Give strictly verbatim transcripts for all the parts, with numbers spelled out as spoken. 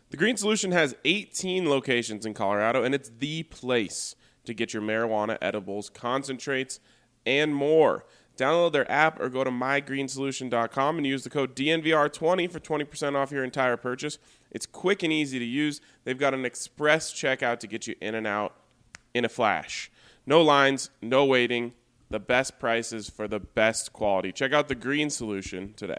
The Green Solution has eighteen locations in Colorado, and it's the place to get your marijuana edibles, concentrates, and more. Download their app or go to my green solution dot com and use the code D N V R twenty for twenty percent off your entire purchase. It's quick and easy to use. They've got an express checkout to get you in and out in a flash. No lines, no waiting. The best prices for the best quality. Check out the Green Solution today.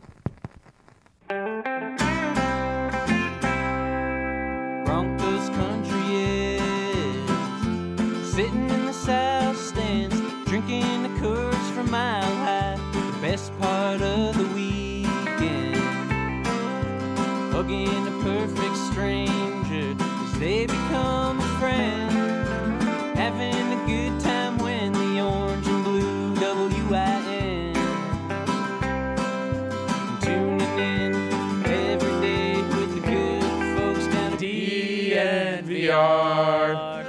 Broncos country is sitting in the south stands, drinking the Coors from Mile High. The best part of the weekend, hugging a perfect stranger as they become a friend, having a good time when the orange and blue W I N, tuning in every day with the good folks down at D N V R.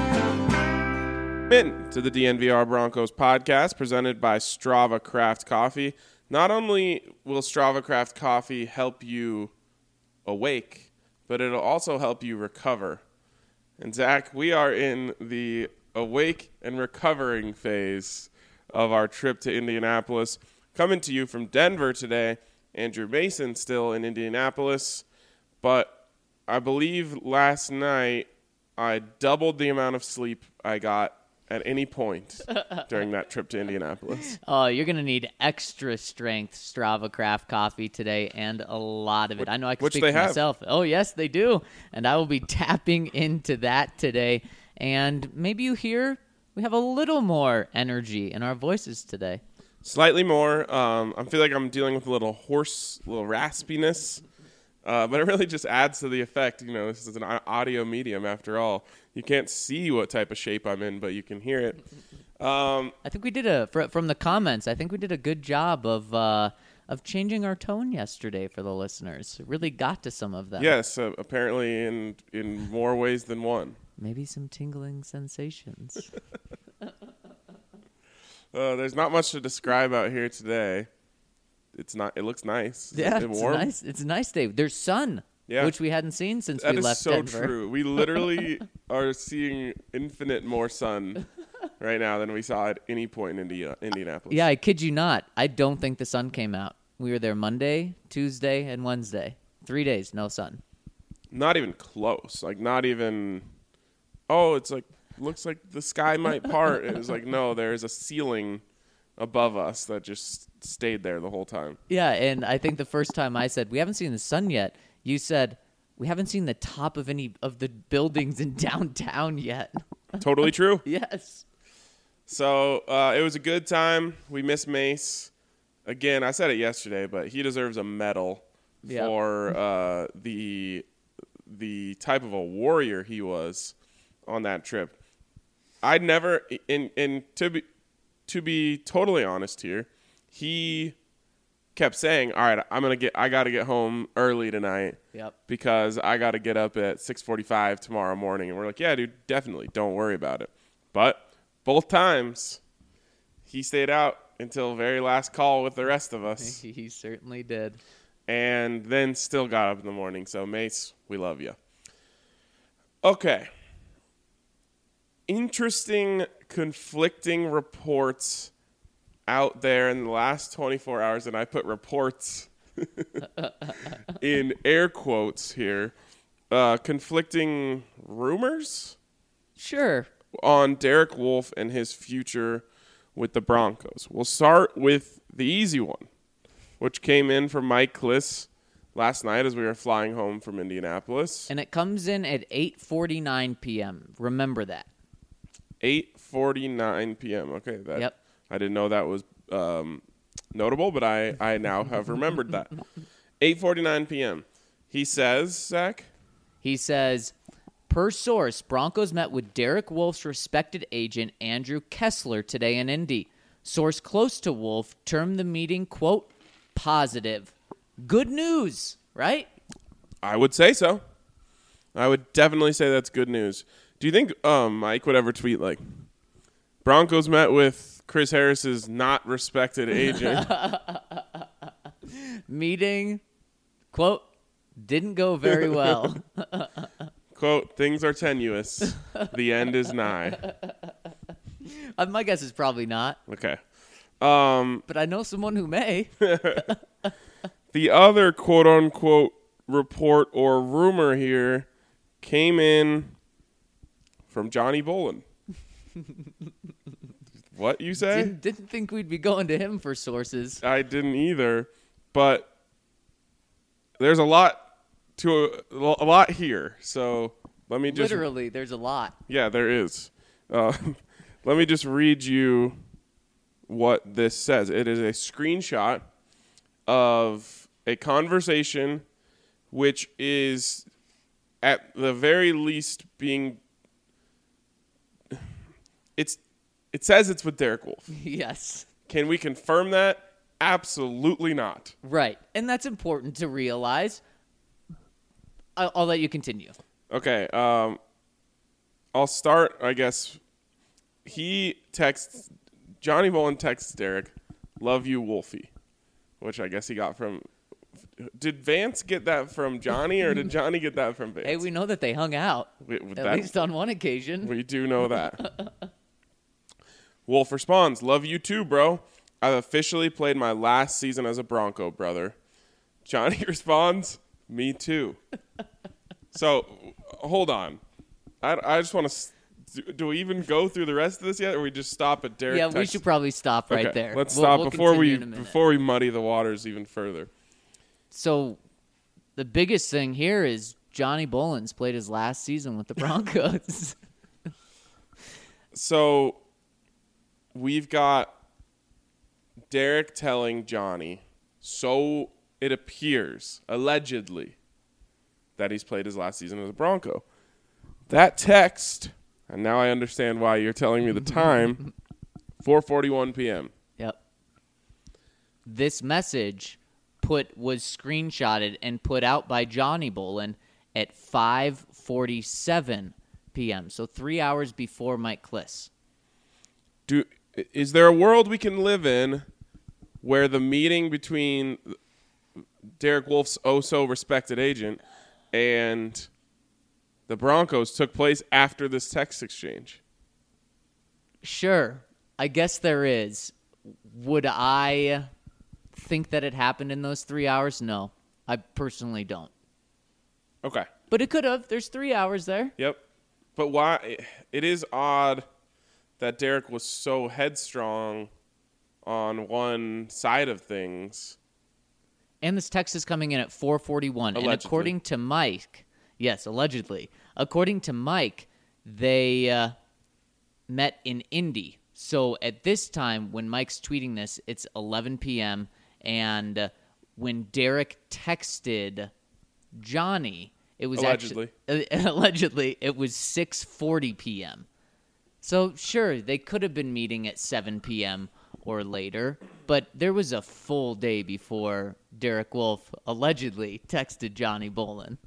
In to the D N V R Broncos podcast presented by Strava Craft Coffee. Not only will Strava Craft Coffee help you awake, but it'll also help you recover. And Zach, we are in the awake and recovering phase of our trip to Indianapolis. Coming to you from Denver today, Andrew Mason still in Indianapolis, but I believe last night I doubled the amount of sleep I got at any point during that trip to Indianapolis. Oh, you're going to need extra strength Strava Craft coffee today and a lot of it. Which, I know I can which speak they for have. myself. Oh, yes, they do. And I will be tapping into that today. And maybe you hear we have a little more energy in our voices today. Slightly more. Um, I feel like I'm dealing with a little hoarse, little raspiness. Uh, but it really just adds to the effect. You know, this is an audio medium after all. You can't see what type of shape I'm in, but you can hear it. Um, I think we did a, fr- from the comments, I think we did a good job of uh, of changing our tone yesterday for the listeners. It really got to some of them. yes, uh, apparently in in more ways than one. Maybe some tingling sensations. Uh, there's not much to describe out here today. It's not. It looks nice. Is Yeah, it it's a warm? nice. It's a nice day. There's sun, Yeah. which we hadn't seen since That we is left so Denver. true. We literally are seeing infinite more sun right now than we saw at any point in India, Indianapolis. Yeah, I kid you not. I don't think the sun came out. We were there Monday, Tuesday, and Wednesday. Three days, no sun. Not even close. Like not even. Oh, it's like looks like the sky might part. It was like no, there's a ceiling above us that just stayed there the whole time. Yeah, and I think the first time I said, we haven't seen the sun yet, you said, we haven't seen the top of any of the buildings in downtown yet. Totally true. Yes. So uh, it was a good time. We miss Mace. Again, I said it yesterday, but he deserves a medal Yeah. for uh, the the type of a warrior he was on that trip. I'd never, in in to be to be totally honest here, he kept saying, "All right, I'm gonna get, I got to get home early tonight, Yep. because I got to get up at six forty-five tomorrow morning." And we're like, "Yeah, dude, definitely, don't worry about it." But both times, he stayed out until very last call with the rest of us, He certainly did. and then still got up in the morning. So Mace, we love you. Okay. Interesting, conflicting reports out there in the last twenty-four hours, and I put reports in air quotes here. Uh, conflicting rumors Sure. on Derek Wolfe and his future with the Broncos. We'll start with the easy one, which came in from Mike Kliss last night as we were flying home from Indianapolis. And it comes in at eight forty-nine p.m. Remember that. eight forty-nine p.m. Okay, that Yep. I didn't know that was um, notable, but I, I now have remembered that. eight forty-nine p.m. He says, Zach? He says, per source, Broncos met with Derek Wolfe's respected agent, Andrew Kessler, today in Indy. Source close to Wolfe termed the meeting, quote, positive. Good news, right? I would say so. I would definitely say that's good news. Do you think um, Mike would ever tweet like, Broncos met with Chris Harris's not respected agent? Meeting, quote, Didn't go very well. Quote, things are tenuous. The end is nigh. Uh, my guess is probably not, Okay. Um, but I know someone who may. the other quote-unquote report or rumor here came in from Johnny Bolin. What you say? Didn't, didn't think we'd be going to him for sources. I didn't either, but there's a lot to a, a lot here. So let me just Literally, there's a lot. yeah, there is. Uh, let me just read you what this says. It is a screenshot of a conversation which is at the very least being it's it says it's with Derek Wolfe. Yes. Can we confirm that? Absolutely not. Right. And that's important to realize. I'll, I'll let you continue. Okay, um I'll start, I guess. He texts Johnny Bolin texts Derek, "Love you, Wolfie," which I guess he got from. Did Vance get that from Johnny, or did Johnny get that from Vance? Hey, we know that they hung out, We, at that- least on one occasion. we do know that. Wolf responds, "Love you too, bro. I've officially played my last season as a Bronco, brother." Johnny responds, "Me too." So, hold on. I, I just want to. Do, do we even go through the rest of this yet, or we just stop at Derek? Yeah, we text- should probably stop right Okay, there. Let's We'll- stop we'll before we continue in a minute. before we muddy the waters even further. So, the biggest thing here is Johnny Bolin's played his last season with the Broncos. So we've got Derek telling Johnny, so it appears, allegedly, that he's played his last season as a Bronco. That text, and now I understand why you're telling me the time, four forty-one p.m. Yep. This message put was screenshotted and put out by Johnny Bolin at five forty-seven p.m. So three hours before Mike Kliss. Do is there a world we can live in where the meeting between Derek Wolfe's oh so respected agent and the Broncos took place after this text exchange? Sure, I guess there is. Would I think that it happened in those three hours? No, I personally don't. Okay. But it could have. There's three hours there. Yep. But why? It is odd that Derek was so headstrong on one side of things. And this text is coming in at four forty-one. And Allegedly. according to Mike, yes, allegedly. According to Mike, they uh, met in Indy. So at this time, when Mike's tweeting this, it's eleven p.m. And uh, when Derek texted Johnny, it was Allegedly. actually uh, allegedly it was six forty p.m. So sure, they could have been meeting at seven p.m. or later, but there was a full day before Derek Wolfe allegedly texted Johnny Bolin.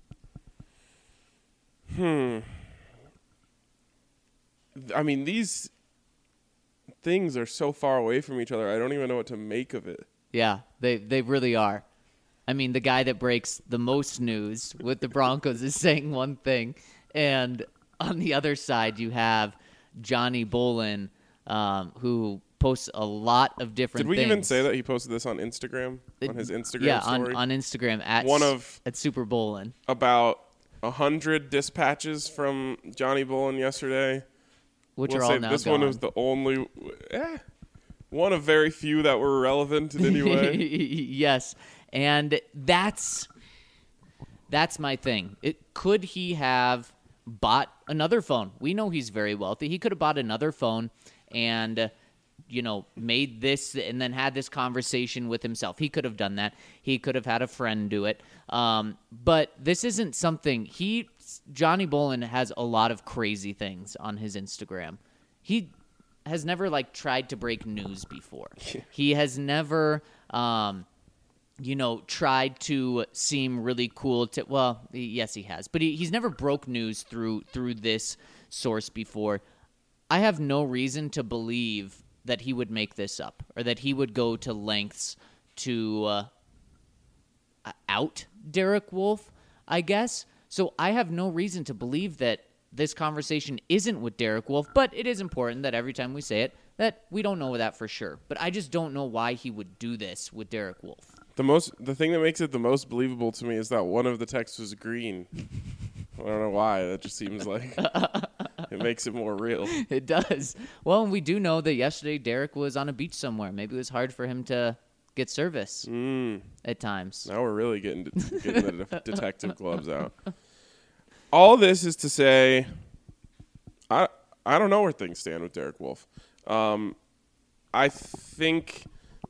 I mean, these things are so far away from each other. I don't even know what to make of it. Yeah, they they really are. I mean, the guy that breaks the most news with the Broncos is saying one thing, and on the other side you have Johnny Bolin, um, who posts a lot of different Did we things. even say that he posted this on Instagram? On his Instagram yeah, story? on, on Instagram at One s- of- at Super Bolin. About a hundred dispatches from Johnny Bolin yesterday. Which We'll are say all now this gone. one was the only, eh, one of very few that were relevant in any way. Yes, and that's that's my thing. It could he have bought another phone? We know he's very wealthy. He could have bought another phone and uh, you know, made this and then had this conversation with himself. He could have done that. He could have had a friend do it. Um, but this isn't something he Johnny Bolin has a lot of crazy things on his Instagram. He has never like tried to break news before. He has never um you know, tried to seem really cool to, well, yes, he has, but he, he's never broke news through through this source before. I have no reason to believe that he would make this up or that he would go to lengths to uh, out Derek Wolfe. I guess. So I have no reason to believe that this conversation isn't with Derek Wolfe, but it is important that every time we say it, that we don't know that for sure. But I just don't know why he would do this with Derek Wolfe. The most, the thing that makes it the most believable to me is that one of the texts was green. I don't know why. That just seems like it makes it more real. It does. Well, and we do know that yesterday Derek was on a beach somewhere. Maybe it was hard for him to get service mm. at times. Now we're really getting, getting the de- detective gloves out. All this is to say, I I don't know where things stand with Derek Wolfe. Um, I think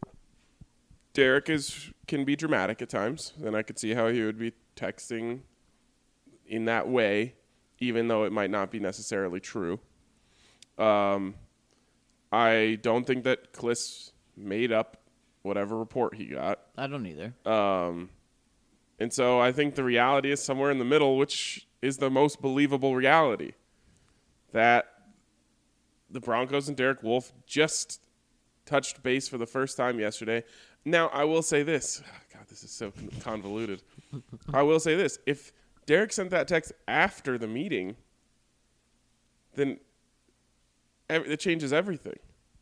Derek is can be dramatic at times, and I could see how he would be texting in that way, even though it might not be necessarily true. Um, I don't think that Kliss made up whatever report he got. I don't either. Um, and so I think the reality is somewhere in the middle, which is the most believable reality. That the Broncos and Derek Wolfe just touched base for the first time yesterday. Now, I will say this. God, this is so convoluted. I will say this. If Derek sent that text after the meeting, then it changes everything.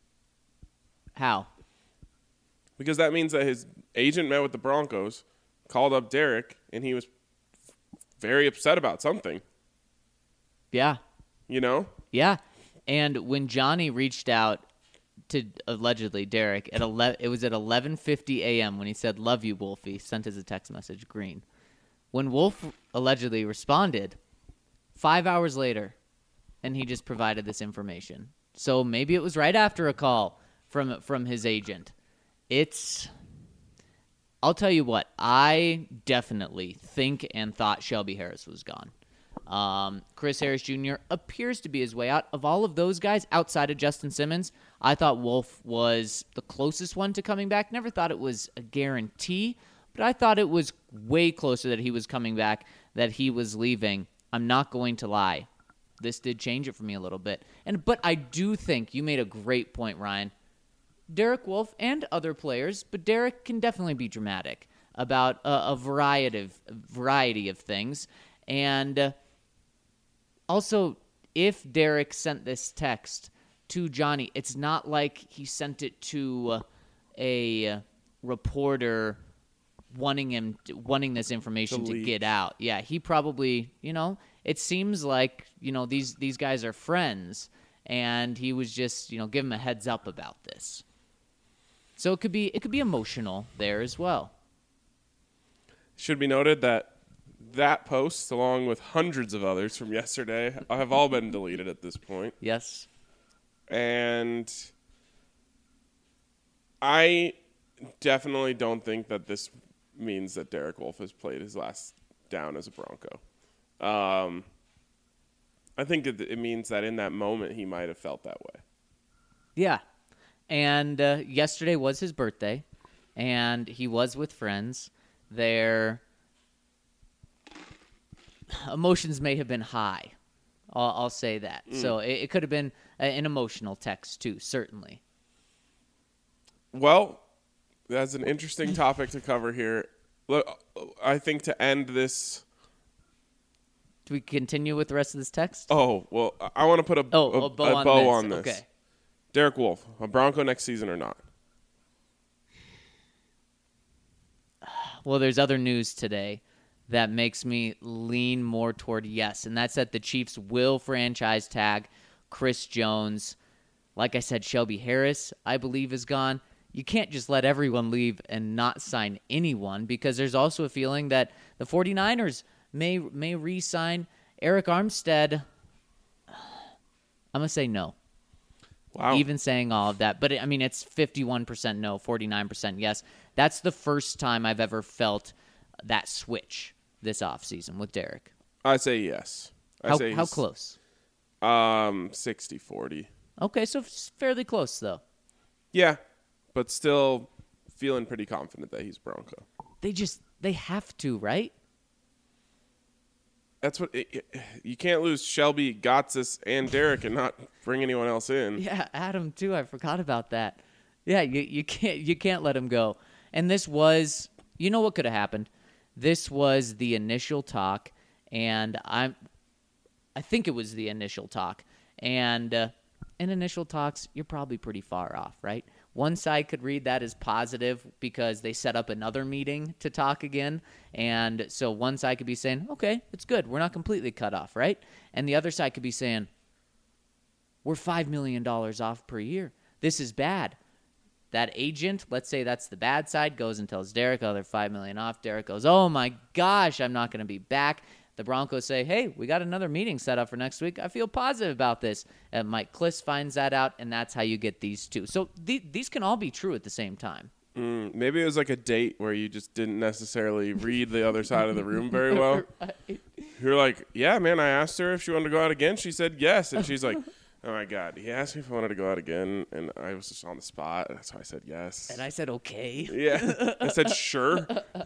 How? Because that means that his agent met with the Broncos, called up Derek, and he was very upset about something. Yeah. You know? Yeah. And when Johnny reached out to allegedly Derek at eleven, it was at eleven fifty a.m. when he said, "Love you, Wolfie," sent as a text message, green. When Wolfe allegedly responded, five hours later, and he just provided this information. So maybe it was right after a call from from his agent. It's, I'll tell you what, I definitely think and thought Shelby Harris was gone. Um, Chris Harris Junior appears to be his way out. Of all of those guys outside of Justin Simmons, I thought Wolfe was the closest one to coming back. Never thought it was a guarantee, but I thought it was way closer that he was coming back, that he was leaving. I'm not going to lie. This did change it for me a little bit. And but I do think you made a great point, Ryan. Derek Wolfe and other players, but Derek can definitely be dramatic about a, a variety of variety of things. And uh, also, if Derek sent this text to Johnny, it's not like he sent it to uh, a reporter wanting him to, wanting this information to get out. Yeah, he probably, you know, it seems like, you know, these these guys are friends, and he was just, you know, give him a heads up about this. So it could be it could be emotional there as well. Should be noted that that post, along with hundreds of others from yesterday, have all been deleted at this point. Yes. And I definitely don't think that this means that Derek Wolfe has played his last down as a Bronco. Um, I think it, it means that in that moment he might have felt that way. Yeah. And uh, yesterday was his birthday, and he was with friends. Their emotions may have been high. I'll, I'll say that. Mm. So it, it could have been a, an emotional text, too, certainly. Well, that's an interesting topic to cover here. Look, I think to end this... Do we continue with the rest of this text? Oh, well, I want to put a, oh, a, a bow, a on, bow this. on this. Okay. Derek Wolfe, a Bronco next season or not? Well, there's other news today that makes me lean more toward yes, and that's that the Chiefs will franchise tag Chris Jones. Like I said, Shelby Harris, I believe, is gone. You can't just let everyone leave and not sign anyone, because there's also a feeling that the 49ers may may re-sign Eric Armstead. I'm going to say no. Wow. Even saying all of that. But, it, I mean, it's fifty-one percent no, forty-nine percent yes. That's the first time I've ever felt that switch this offseason with Derek. I say yes. I how, say how close? Um, sixty forty. Okay, so fairly close, though. Yeah, but still feeling pretty confident that he's Bronco. They just, they have to, right? That's what it, it, you can't lose Shelby, Gotsis, and Derek and not bring anyone else in. Yeah, Adam too. I forgot about that. Yeah, you you can't you can't let him go. And this was, you know what could have happened? this was the initial talk, and I'm, I think it was the initial talk. And uh, in initial talks, you're probably pretty far off, right? One side could read that as positive because they set up another meeting to talk again. And so one side could be saying, okay, it's good. We're not completely cut off, right? And the other side could be saying, we're five million dollars off per year. This is bad. That agent, let's say that's the bad side, goes and tells Derek, oh, they're five million dollars off. Derek goes, oh, my gosh, I'm not going to be back. The Broncos say, hey, we got another meeting set up for next week. I feel positive about this. And Mike Klis finds that out, and that's how you get these two. So th- these can all be true at the same time. Mm, maybe it was like a date where you just didn't necessarily read the other side of the room very well. Right. You're like, yeah, man, I asked her if she wanted to go out again. She said yes. And she's like, oh, my God. He asked me if I wanted to go out again, and I was just on the spot. That's why I said yes. And I said, okay. Yeah. I said, sure.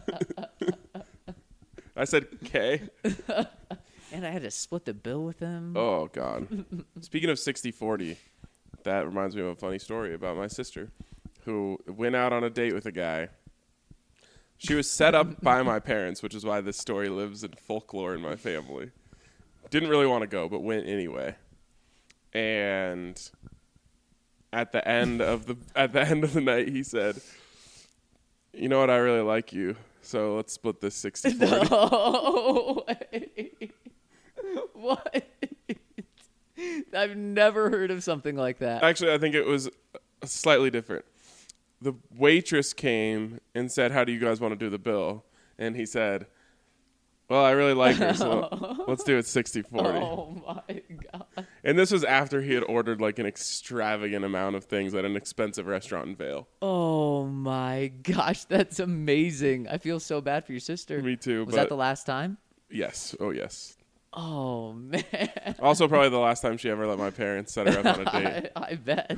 I said, okay. And I had to split the bill with him. Oh, God. Speaking of sixty forty, that reminds me of a funny story about my sister who went out on a date with a guy. She was set up by my parents, which is why this story lives in folklore in my family. Didn't really want to go, but went anyway. And at the end of the at the end of the night, he said, "You know what? I really like you. So let's split this sixty forty. No way. What? I've never heard of something like that. Actually, I think it was slightly different. The waitress came and said, how do you guys want to do the bill? And he said, well, I really like her, so let's do it sixty forty. Oh, my God. And this was after he had ordered like an extravagant amount of things at an expensive restaurant in Vail. Oh, my gosh. That's amazing. I feel so bad for your sister. Me too. Was but that the last time? Yes. Oh, yes. Oh, man. Also probably the last time she ever let my parents set her up on a date. I, I bet.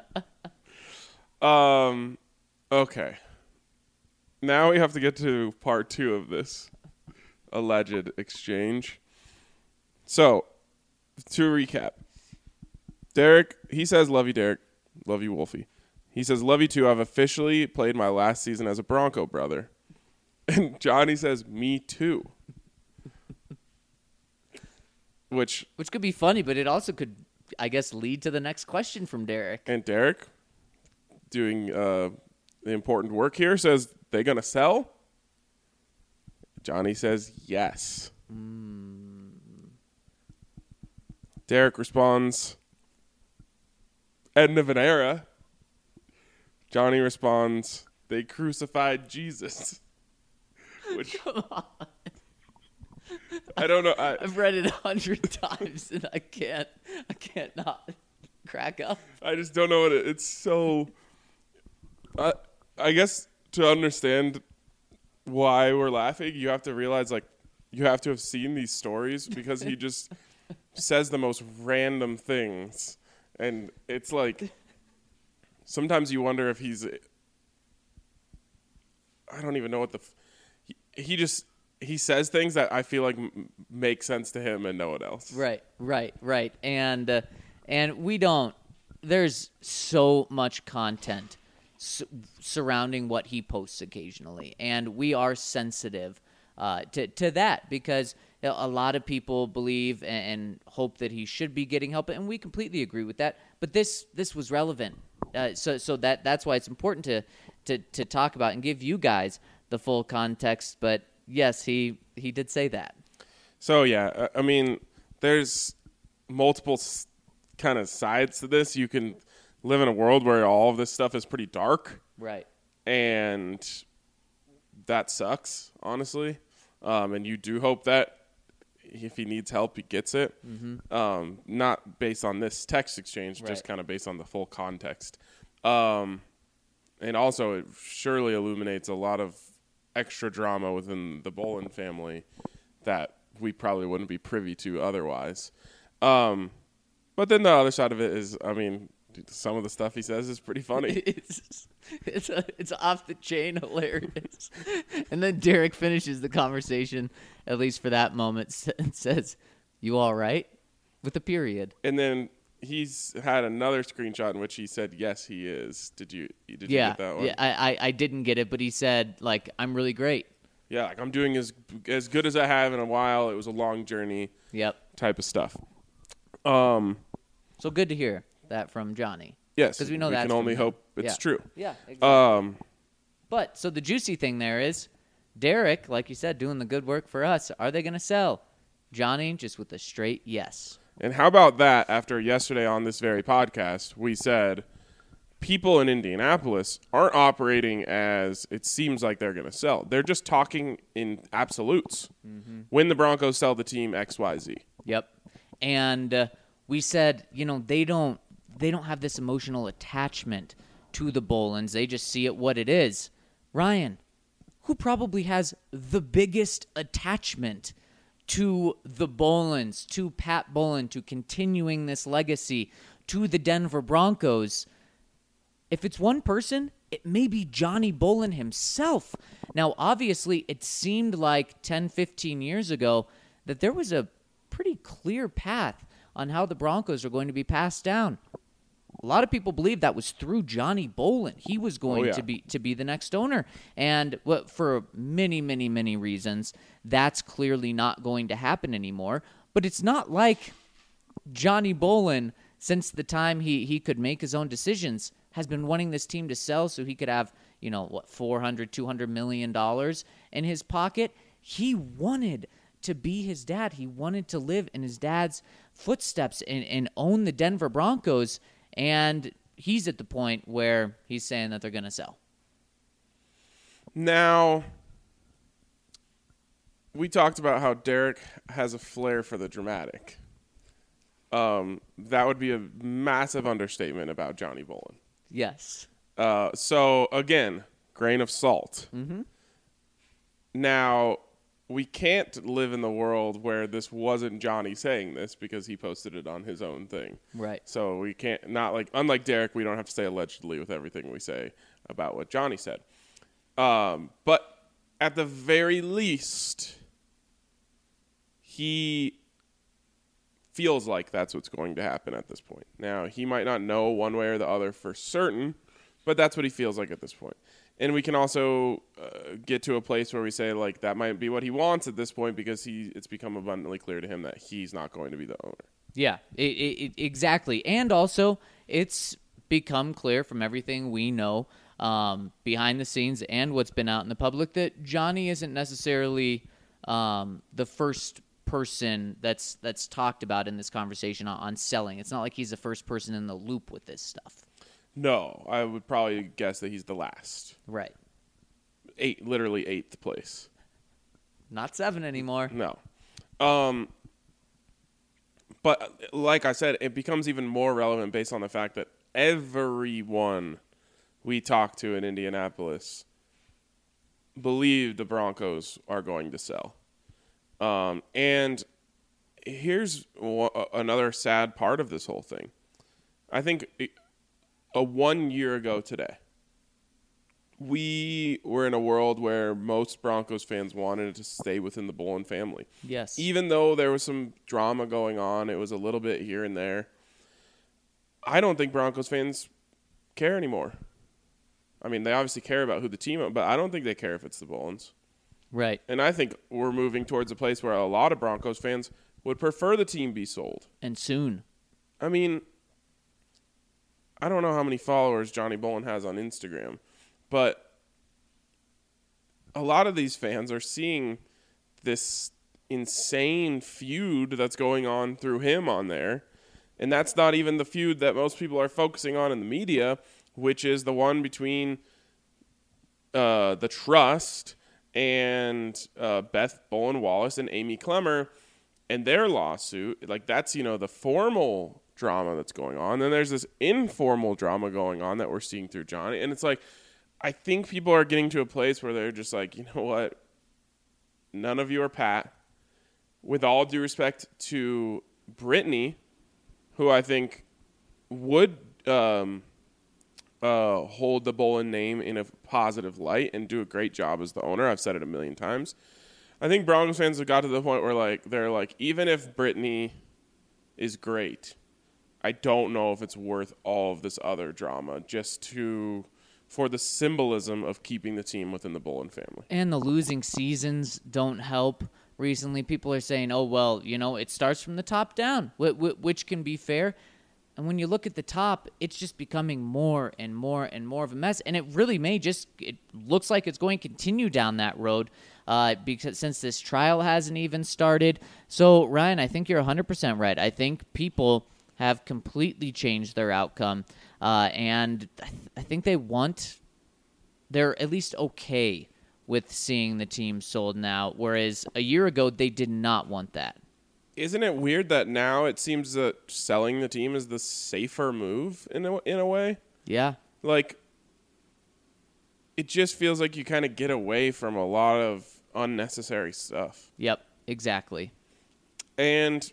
um, okay. Now we have to get to part two of this alleged exchange. So, to recap, Derek, he says, love you, Derek. Love you, Wolfie. He says, love you too. I've officially played my last season as a Bronco brother. And Johnny says, me too. Which Which could be funny, but it also could, I guess, lead to the next question from Derek. And Derek, doing uh, the important work here, says, they going to sell? Johnny says, yes. Mm. Derek responds, end of an era. Johnny responds, they crucified Jesus. Which, Come on. I don't know. I, I've read it a hundred times, and I can't, I can't not crack up. I just don't know what it, it's so. I, I guess to understand why we're laughing, you have to realize, like, you have to have seen these stories because he just says the most random things. And it's like, sometimes you wonder if he's, I don't even know what the, he, he just, he says things that I feel like m- make sense to him and no one else. Right, right, right. And, uh, and we don't, there's so much content su- surrounding what he posts occasionally. And we are sensitive uh, to, to that because a lot of people believe and, and hope that he should be getting help. And we completely agree with that. But this, this was relevant. Uh, so, so that, that's why it's important to, to, to talk about and give you guys the full context. But yes, he, he did say that. So, yeah, I mean, there's multiple s- kind of sides to this. You can live in a world where all of this stuff is pretty dark. Right. And that sucks, honestly. Um, and you do hope that if he needs help, he gets it. Mm-hmm. Um, not based on this text exchange, right. just kind of based on the full context. Um, and also, it surely illuminates a lot of extra drama within the Bolin family that we probably wouldn't be privy to otherwise. Um, but then the other side of it is, I mean, some of the stuff he says is pretty funny. It's it's, a, it's off the chain hilarious. And then Derek finishes the conversation, at least for that moment, and says, "You all right?" with a period. And then he's had another screenshot in which he said, "Yes, he is." Did you? Did yeah, you get that one? Yeah, I, I I didn't get it, but he said, like, "I'm really great." Yeah, like I'm doing as as good as I have in a while. It was a long journey. Yep. Type of stuff. Um. So good to hear that from Johnny. Yes, because we know we that's can only from them. hope it's Yeah. true. Yeah. Exactly. Um. But so the juicy thing there is, Derek, like you said, doing the good work for us. Are they going to sell? Johnny just with a straight yes. And how about that? After yesterday on this very podcast, we said people in Indianapolis aren't operating as it seems like they're going to sell. They're just talking in absolutes. Mm-hmm. When the Broncos sell the team X Y Z. Yep. And uh, we said, you know, they don't they don't have this emotional attachment to the Bolins. They just see it what it is. Ryan, who probably has the biggest attachment to the Bolins, to Pat Bowlen, to continuing this legacy, to the Denver Broncos? If it's one person, it may be Johnny Bowlen himself. Now, obviously, it seemed like ten, fifteen years ago that there was a pretty clear path on how the Broncos are going to be passed down. A lot of people believe that was through Johnny Bowlen. He was going oh, yeah. to be to be the next owner. And well, for many, many, many reasons, that's clearly not going to happen anymore. But it's not like Johnny Bowlen, since the time he, he could make his own decisions, has been wanting this team to sell so he could have, you know, what, four hundred, two hundred million dollars in his pocket. He wanted to be his dad. He wanted to live in his dad's footsteps and, and own the Denver Broncos. And he's at the point where he's saying that they're going to sell. Now, we talked about how Derek has a flair for the dramatic. Um, that would be a massive understatement about Johnny Bowlen. Yes. Uh, so, again, grain of salt. Mm-hmm. Now, we can't live in the world where this wasn't Johnny saying this because he posted it on his own thing. Right. So we can't, not like, unlike Derek, we don't have to say allegedly with everything we say about what Johnny said. Um, but at the very least, he feels like that's what's going to happen at this point. Now, he might not know one way or the other for certain, but that's what he feels like at this point. And we can also uh, get to a place where we say, like, that might be what he wants at this point because he it's become abundantly clear to him that he's not going to be the owner. Yeah, it, it, it, exactly. And also, it's become clear from everything we know um, behind the scenes and what's been out in the public that Johnny isn't necessarily um, the first person that's that's talked about in this conversation on, on selling. It's not like he's the first person in the loop with this stuff. No, I would probably guess that he's the last. Right. Eight, literally eighth place. Not seven anymore. No. Um, but like I said, it becomes even more relevant based on the fact that everyone we talked to in Indianapolis believe the Broncos are going to sell. Um, and here's w- another sad part of this whole thing. I think it, a one year ago today, we were in a world where most Broncos fans wanted to stay within the Bowlen family. Yes. Even though there was some drama going on, it was a little bit here and there. I don't think Broncos fans care anymore. I mean, they obviously care about who the team is, but I don't think they care if it's the Bowlens. Right. And I think we're moving towards a place where a lot of Broncos fans would prefer the team be sold. And soon. I mean, I don't know how many followers Johnny Bowlen has on Instagram, but a lot of these fans are seeing this insane feud that's going on through him on there. And that's not even the feud that most people are focusing on in the media, which is the one between uh, the Trust and uh, Beth Bowlen Wallace and Amy Clemmer and their lawsuit. Like, that's, you know, the formal drama that's going on. Then there's this informal drama going on that we're seeing through Johnny. And it's like, I think people are getting to a place where they're just like, you know what? None of you are Pat. With all due respect to Brittany, who I think would um, uh, hold the Bowlen name in a positive light and do a great job as the owner. I've said it a million times. I think Broncos fans have got to the point where like they're like, even if Brittany is great, I don't know if it's worth all of this other drama just to for the symbolism of keeping the team within the Bullen family. And the losing seasons don't help. Recently, people are saying, oh, well, you know, it starts from the top down, which can be fair. And when you look at the top, it's just becoming more and more and more of a mess. And it really may just, it looks like it's going to continue down that road uh, because since this trial hasn't even started. So, Ryan, I think you're one hundred percent right. I think people have completely changed their outcome. Uh, and I, th- I think they want, they're at least okay with seeing the team sold now, whereas a year ago, they did not want that. Isn't it weird that now it seems that selling the team is the safer move in a, in a way? Yeah. Like, it just feels like you kind of get away from a lot of unnecessary stuff. Yep, exactly. And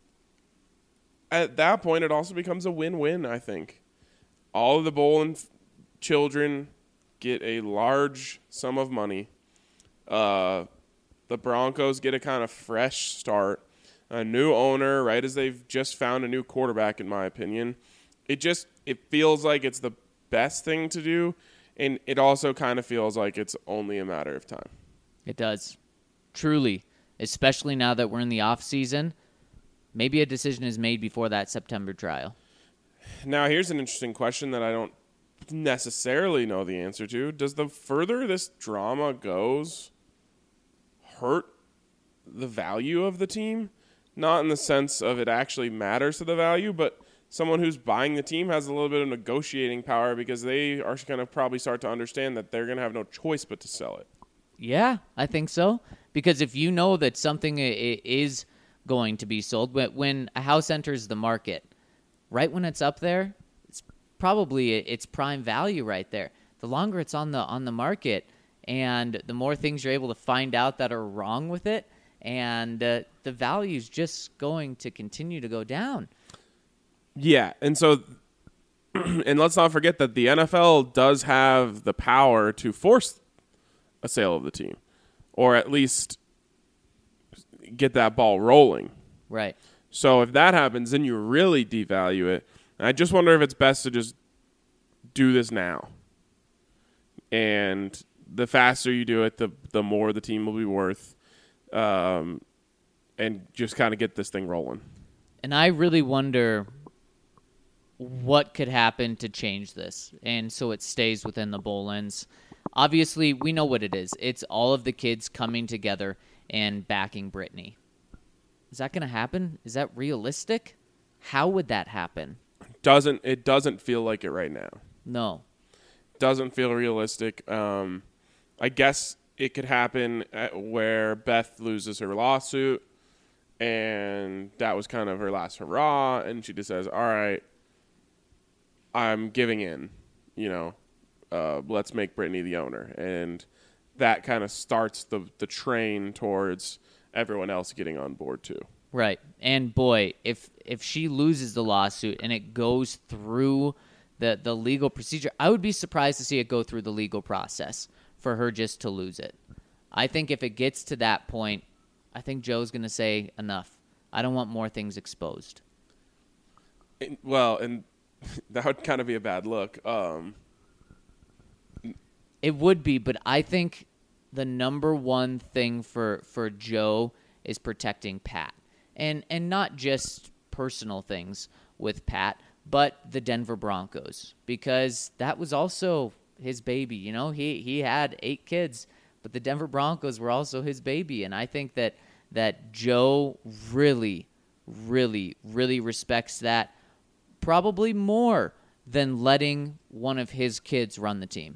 at that point, it also becomes a win-win, I think. All of the Bullen f- children get a large sum of money. Uh, the Broncos get a kind of fresh start. A new owner, right as they've just found a new quarterback, in my opinion. It just it feels like it's the best thing to do, and it also kind of feels like it's only a matter of time. It does. Truly. Especially now that we're in the off season. Maybe a decision is made before that September trial. Now, here's an interesting question that I don't necessarily know the answer to. Does the further this drama goes hurt the value of the team? Not in the sense of it actually matters to the value, but someone who's buying the team has a little bit of negotiating power because they are going to probably start to understand that they're going to have no choice but to sell it. Yeah, I think so. Because if you know that something is going to be sold, when a house enters the market, right when it's up there, it's probably its prime value right there. The longer it's on the on the market and the more things you're able to find out that are wrong with it, and uh, the value's just going to continue to go down. Yeah, and so, and let's not forget that the N F L does have the power to force a sale of the team, or at least get that ball rolling. Right. So if that happens, then you really devalue it. And I just wonder if it's best to just do this now. And the faster you do it, the the more the team will be worth. Um, and just kind of get this thing rolling. And I really wonder what could happen to change this, and so it stays within the Bullens. Obviously, we know what it is. It's all of the kids coming together and backing Brittany. Is that going to happen? Is that realistic? How would that happen? Doesn't it doesn't feel like it right now. No. Doesn't feel realistic. Um, I guess it could happen at where Beth loses her lawsuit, and that was kind of her last hurrah, and she just says, all right, I'm giving in, you know, uh, let's make Brittany the owner. And that kind of starts the, the train towards everyone else getting on board too. Right. And boy, if if she loses the lawsuit and it goes through the, the legal procedure, I would be surprised to see it go through the legal process for her just to lose it. I think if it gets to that point, I think Joe's going to say, enough. I don't want more things exposed. And, well, and that would kind of be a bad look. Um, it would be, but I think the number one thing for, for Joe is protecting Pat. And and not just personal things with Pat, but the Denver Broncos. Because that was also his baby. You know, he, he had eight kids, but the Denver Broncos were also his baby. And I think that that Joe really, really, really respects that probably more than letting one of his kids run the team.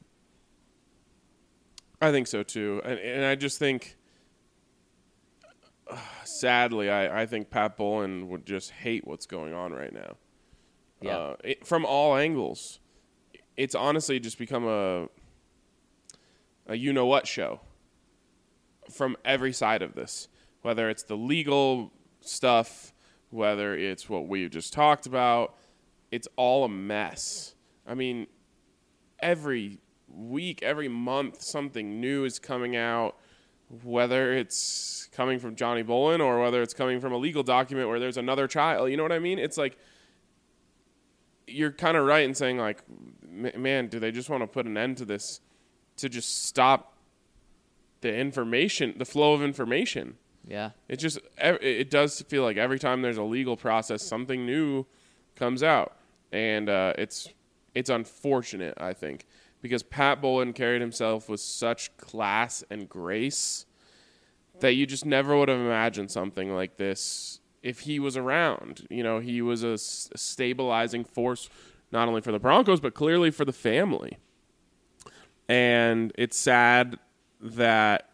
I think so too. And, and I just think, uh, sadly, I, I think Pat Bullen would just hate what's going on right now. Yeah. Uh, it, from all angles. It's honestly just become a a you-know-what show from every side of this. Whether it's the legal stuff, whether it's what we've just talked about, it's all a mess. I mean, every week, every month, something new is coming out, whether it's coming from Johnny Bullen or whether it's coming from a legal document where there's another child. You know what I mean? It's like you're kind of right in saying, like, man, do they just want to put an end to this to just stop the information, the flow of information? Yeah. It just, it does feel like every time there's a legal process, something new comes out. And uh, it's it's unfortunate, I think, because Pat Bowlen carried himself with such class and grace that you just never would have imagined something like this if he was around. You know, he was a, s- a stabilizing force, not only for the Broncos, but clearly for the family. And it's sad that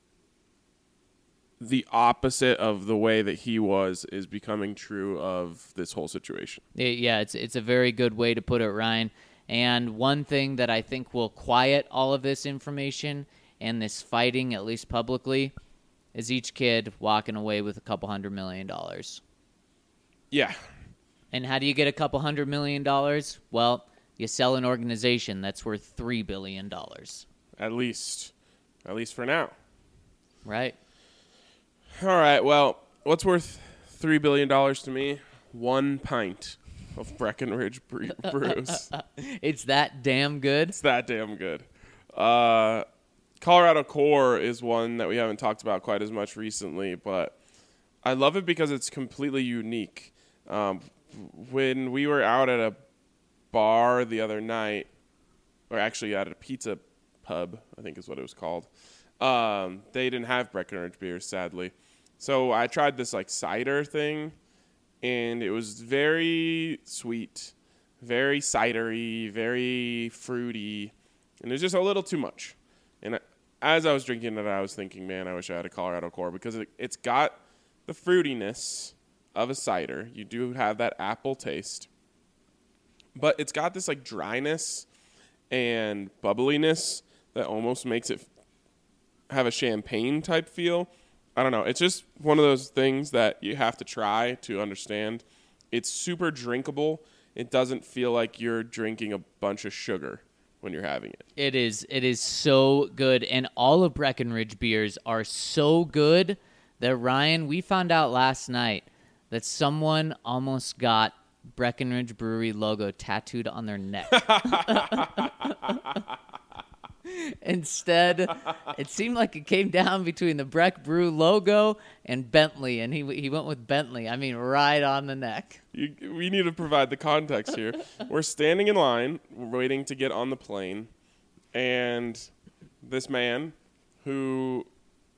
the opposite of the way that he was is becoming true of this whole situation. Yeah, it's it's a very good way to put it, Ryan. And one thing that I think will quiet all of this information and this fighting, at least publicly, is each kid walking away with a couple hundred million dollars. Yeah. And how do you get a couple hundred million dollars? Well, you sell an organization that's worth three billion dollars. At least. At least for now. Right. All right, well, what's worth three billion dollars to me? One pint of Breckenridge bre- brews. It's that damn good. It's that damn good. Uh, Colorado Core is one that we haven't talked about quite as much recently, but I love it because it's completely unique. Um, when we were out at a bar the other night, or actually at a pizza pub, I think is what it was called, um, they didn't have Breckenridge beers, sadly. So I tried this like cider thing, and it was very sweet, very cidery, very fruity, and it was just a little too much. And as I was drinking it, I was thinking, man, I wish I had a Colorado Core, because it, it's got the fruitiness of a cider. You do have that apple taste, but it's got this like dryness and bubbliness that almost makes it have a champagne type feel. I don't know. It's just one of those things that you have to try to understand. It's super drinkable. It doesn't feel like you're drinking a bunch of sugar when you're having it. It is. It is so good. And all of Breckenridge beers are so good that, Ryan, we found out last night that someone almost got Breckenridge Brewery logo tattooed on their neck. Instead, it seemed like it came down between the Breck Brew logo and Bentley, and he he went with Bentley. I mean, right on the neck. You, we need to provide the context here. We're standing in line, waiting to get on the plane, and this man who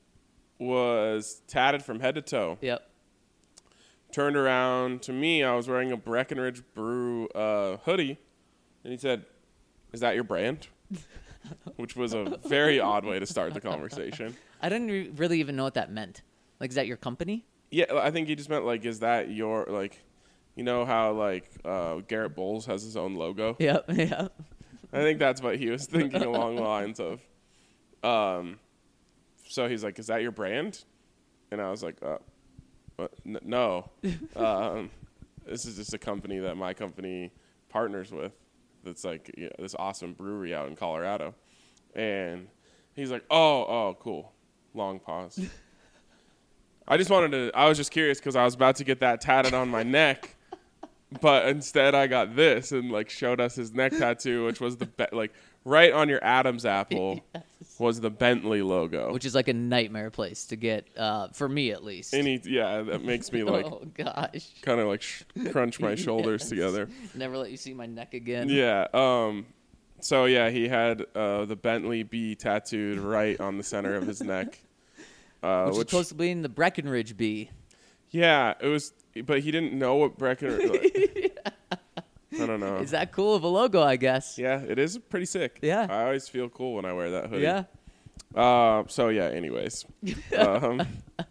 was tatted from head to toe Yep. turned around to me. I was wearing a Breckenridge Brew uh, hoodie, and he said, "Is that your brand?" Which was a very odd way to start the conversation. I didn't re- really even know what that meant. Like, is that your company? Yeah, I think he just meant, like, is that your, like, you know how, like, uh, Garrett Bowles has his own logo? Yep, yep. I think that's what he was thinking along the lines of. Um, so he's like, is that your brand? And I was like, uh, what? N- no. um, this is just a company that my company partners with. That's like, you know, this awesome brewery out in Colorado. And he's like, oh, oh, cool. Long pause. I just wanted to, I was just curious because I was about to get that tatted on my neck. But instead I got this and like showed us his neck tattoo, which was the, be- like right on your Adam's apple yes. was the Bentley logo. Which is like a nightmare place to get, uh, for me at least. Any, yeah, that makes me like, oh gosh, kind of like sh- crunch my shoulders yes. together. Never let you see my neck again. Yeah. Um. So yeah, he had uh, the Bentley B tattooed right on the center of his neck, uh, which, which is supposed to be in the Breckenridge B. Yeah, it was, but he didn't know what Breckenridge. Like, I don't know. Is that cool of a logo? I guess. Yeah, it is pretty sick. Yeah, I always feel cool when I wear that hoodie. Yeah. Uh, so yeah. Anyways, um,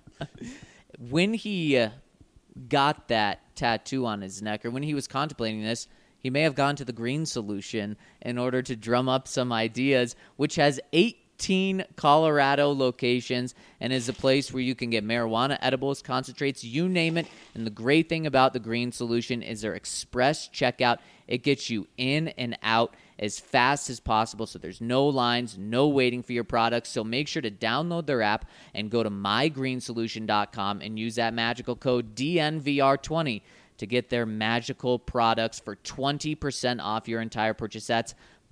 when he uh, got that tattoo on his neck, or when he was contemplating this, he may have gone to the Green Solution in order to drum up some ideas, which has eighteen Colorado locations and is a place where you can get marijuana, edibles, concentrates, you name it. And the great thing about the Green Solution is their express checkout. It gets you in and out as fast as possible, so there's no lines, no waiting for your products. So make sure to download their app and go to my green solution dot com and use that magical code D N V R twenty to get their magical products for twenty percent off your entire purchase. That's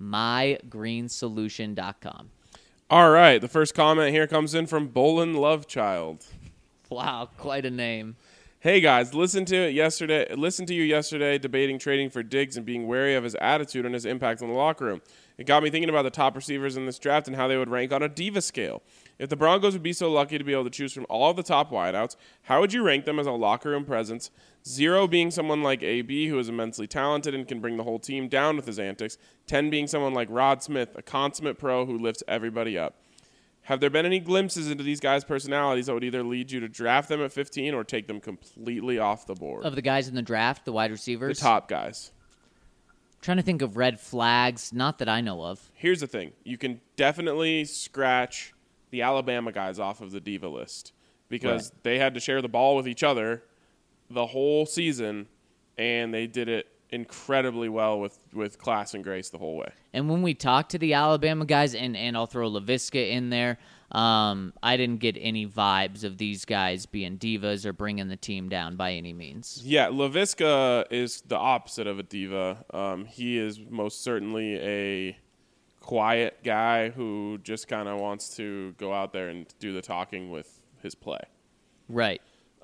my green solution dot com. All right. The first comment here comes in from Bolin Lovechild. Wow, quite a name. Hey guys, listen to it yesterday. Listen to you yesterday debating trading for Diggs and being wary of his attitude and his impact on the locker room. It got me thinking about the top receivers in this draft and how they would rank on a diva scale. If the Broncos would be so lucky to be able to choose from all of the top wideouts, how would you rank them as a locker room presence? Zero being someone like A B, who is immensely talented and can bring the whole team down with his antics. Ten being someone like Rod Smith, a consummate pro who lifts everybody up. Have there been any glimpses into these guys' personalities that would either lead you to draft them at fifteen or take them completely off the board? Of the guys in the draft, the wide The receivers? top guys. Trying to think of red flags. Not that I know of. Here's the thing. You can definitely scratch the Alabama guys off of the diva list because Right. they had to share the ball with each other the whole season, and they did it incredibly well with, with class and grace the whole way. And when we talked to the Alabama guys, and, and I'll throw LaVisca in there, um, I didn't get any vibes of these guys being divas or bringing the team down by any means. Yeah, LaVisca is the opposite of a diva. Um, he is most certainly a quiet guy who just kind of wants to go out there and do the talking with his play. Right.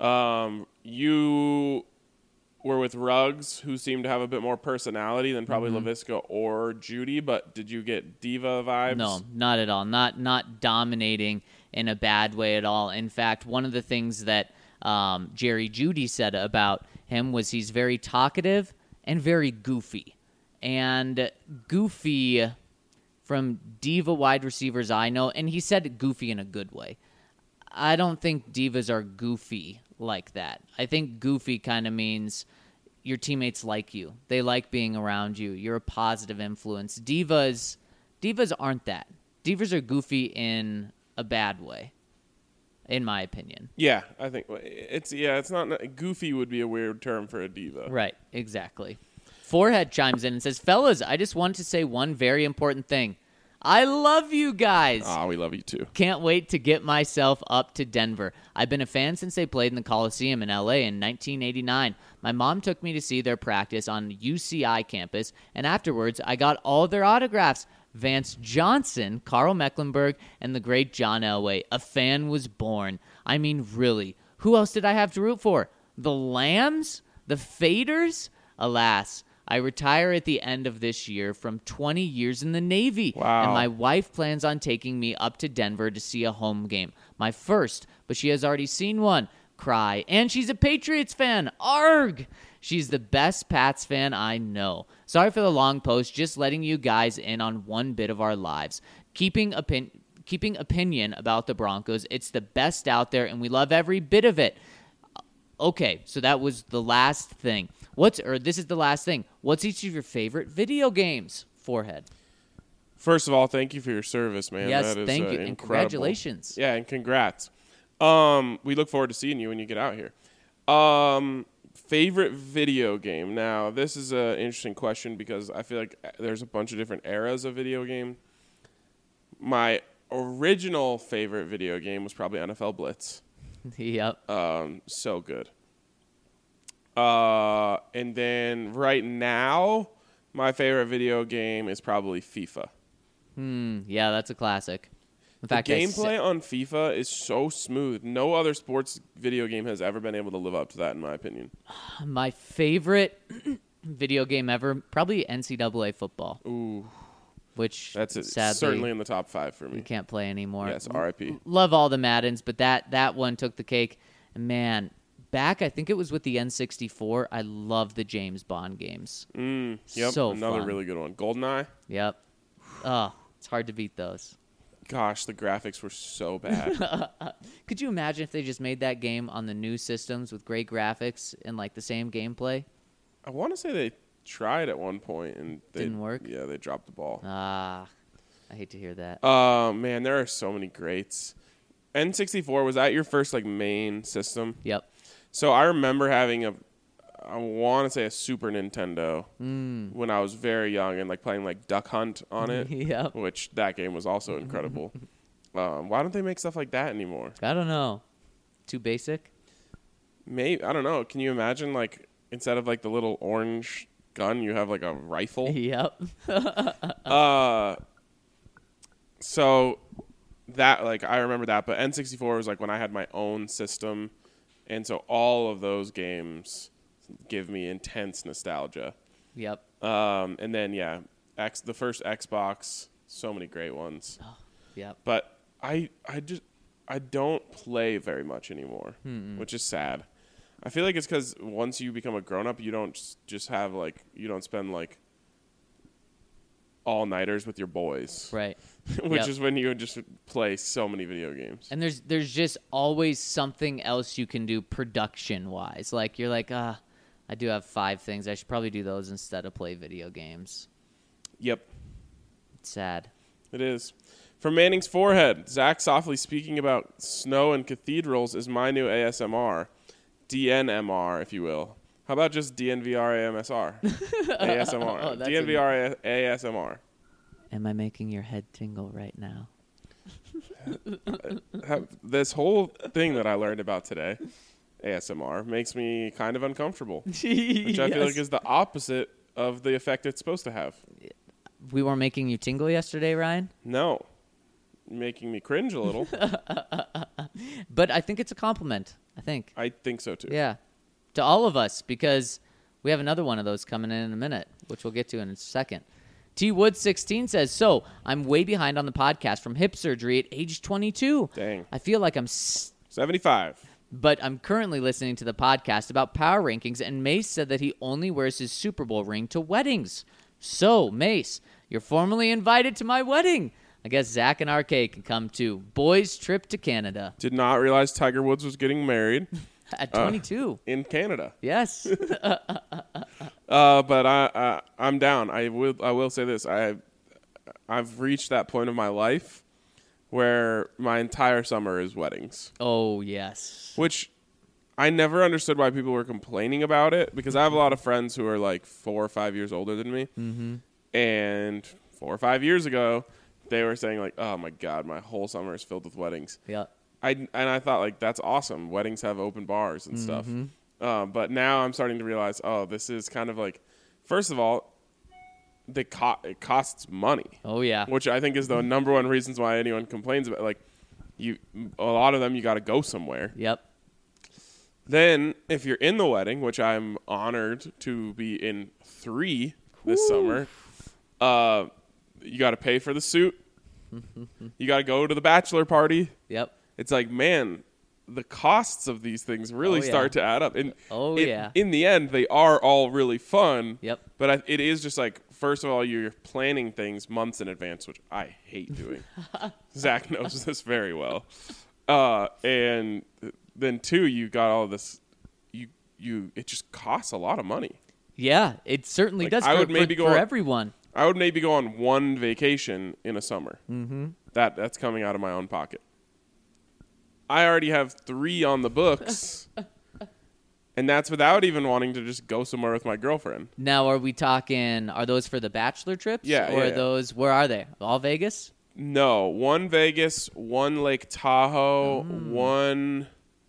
Um, you were with Ruggs, who seemed to have a bit more personality than probably Mm-hmm. LaVisca or Judy, but did you get diva vibes? No, not at all. Not not dominating in a bad way at all. In fact, one of the things that um, Jerry Jeudy said about him was he's very talkative and very goofy. And goofy from diva wide receivers I know, and he said goofy in a good way. I don't think divas are goofy like that. I think goofy kind of means your teammates like you. They like being around you. You're a positive influence. Divas, divas aren't that. Divas are goofy in a bad way, in my opinion. Yeah, I think it's yeah, it's not goofy would be a weird term for a diva. Right, exactly. Forehead chimes in and says, "Fellas, I just wanted to say one very important thing. I love you guys. Ah, we love you too. Can't wait to get myself up to Denver. I've been a fan since they played in the Coliseum in L A in nineteen eighty-nine. My mom took me to see their practice on U C I campus, and afterwards I got all their autographs. Vance Johnson, Carl Mecklenburg, and the great John Elway. A fan was born. I mean, really. Who else did I have to root for? The Lambs? The Faders? Alas, I retire at the end of this year from twenty years in the Navy. Wow. And my wife plans on taking me up to Denver to see a home game. My first, but she has already seen one. Cry. And she's a Patriots fan. Arg! She's the best Pats fan I know. Sorry for the long post, just letting you guys in on one bit of our lives. Keeping opin- keeping opinion about the Broncos. It's the best out there, and we love every bit of it. Okay, so that was the last thing. What's or this is the last thing. What's each of your favorite video games? Forehead. First of all, thank you for your service, man. Yes, that is, thank uh, you, and incredible. congratulations. Yeah, and congrats. Um, we look forward to seeing you when you get out here. Um, favorite video game. Now, this is an interesting question because I feel like there's a bunch of different eras of video game. My original favorite video game was probably N F L Blitz. Yep. Um, so good. Uh, and then right now, my favorite video game is probably FIFA. Hmm. Yeah, that's a classic. In The fact, I gameplay sa- on FIFA is so smooth. No other sports video game has ever been able to live up to that, in my opinion. my favorite video game ever, probably N C double A football, Ooh, which that's it. sadly Certainly in the top five for we me. can't play anymore. Yes, R I P. Love all the Maddens, but that that one took the cake. And man, back I think it was with the N sixty-four. I love the James Bond games. Mm, yep, So another fun. really good one. GoldenEye. Yep. Oh, it's hard to beat those. Gosh, the graphics were so bad. Could you imagine if they just made that game on the new systems with great graphics and like the same gameplay? I want to say they tried at one point and they, Didn't work? Yeah, they dropped the ball. Ah, I hate to hear that. Oh, man, there are so many greats. N sixty-four, was that your first like main system? Yep. So I remember having a, I want to say a Super Nintendo Mm. when I was very young and like playing like Duck Hunt on it, Yep. which that game was also incredible. um, why don't they make stuff like that anymore? I don't know. Too basic? Maybe I don't know. Can you imagine like instead of like the little orange gun, you have like a rifle. Yep. uh, so that like I remember that, but N sixty-four was like when I had my own system, and so all of those games give me intense nostalgia. Yep. Um, and then yeah, X the first Xbox, so many great ones. Oh, yep. But I I just I don't play very much anymore, Mm-mm. which is sad. I feel like it's because once you become a grown up, you don't just have like you don't spend like all nighters with your boys, Right. which Yep. is when you just play so many video games. And there's there's just always something else you can do production wise. Like you're like, ah, I do have five things. I should probably do those instead of play video games. Yep, It's sad. it is. From Manning's forehead, Zach softly speaking about snow and cathedrals is my new A S M R, D N M R, if you will. How about just D N V R A M S R? A S M R. Oh, that's D N V R A S M R. Am I making your head tingle right now? Have, this whole thing that I learned about today, A S M R, makes me kind of uncomfortable, which I feel like is the opposite of the effect it's supposed to have. We were making you tingle yesterday, Ryan. No, making me cringe a little. But I think it's a compliment. I think. I think so too. Yeah. To all of us, because we have another one of those coming in in a minute, which we'll get to in a second. T Wood sixteen says, so I'm way behind on the podcast from hip surgery at age twenty-two. Dang. I feel like I'm, s- seventy-five. but I'm currently listening to the podcast about power rankings, and Mace said that he only wears his Super Bowl ring to weddings. So, Mace, you're formally invited to my wedding. I guess Zach and R K can come too. Boys' trip to Canada. Did not realize Tiger Woods was getting married At twenty-two. uh, in Canada. Yes. Uh, but I, I I'm down. I will I will say this. I I've reached that point of my life where my entire summer is weddings, Oh, yes. which I never understood why people were complaining about it, because I have a lot of friends who are like four or five years older than me, Mm-hmm. and four or five years ago they were saying like, oh my god, my whole summer is filled with weddings. Yeah. I and I thought like that's awesome. Weddings have open bars and stuff. Mhm. Um, but now I'm starting to realize, oh, this is kind of like, first of all, the co- it costs money, Oh, yeah. which I think is the number one reasons why anyone complains about. Like, you, a lot of them, you got to go somewhere. Yep. Then, if you're in the wedding, which I'm honored to be in three this Woo. summer, uh, you got to pay for the suit. You got to go to the bachelor party. Yep. It's like, man, the costs of these things really Oh, yeah. start to add up. And Oh, it- yeah. in the end, they are all really fun. Yep. But I, it is just like, first of all, you're planning things months in advance, which I hate doing. Zach knows this very well. Uh, and then two, you got all this. You you it just costs a lot of money. Yeah, it certainly Like, does I for, would maybe for, go for on- everyone. I would maybe go on one vacation in a summer. Mm-hmm. That that's coming out of my own pocket. I already have three on the books, and that's without even wanting to just go somewhere with my girlfriend. Now, are we talking, are those for the bachelor trips? Yeah, Or yeah, are yeah. those, where are they? All Vegas? No, one Vegas, one Lake Tahoe, Mm. one.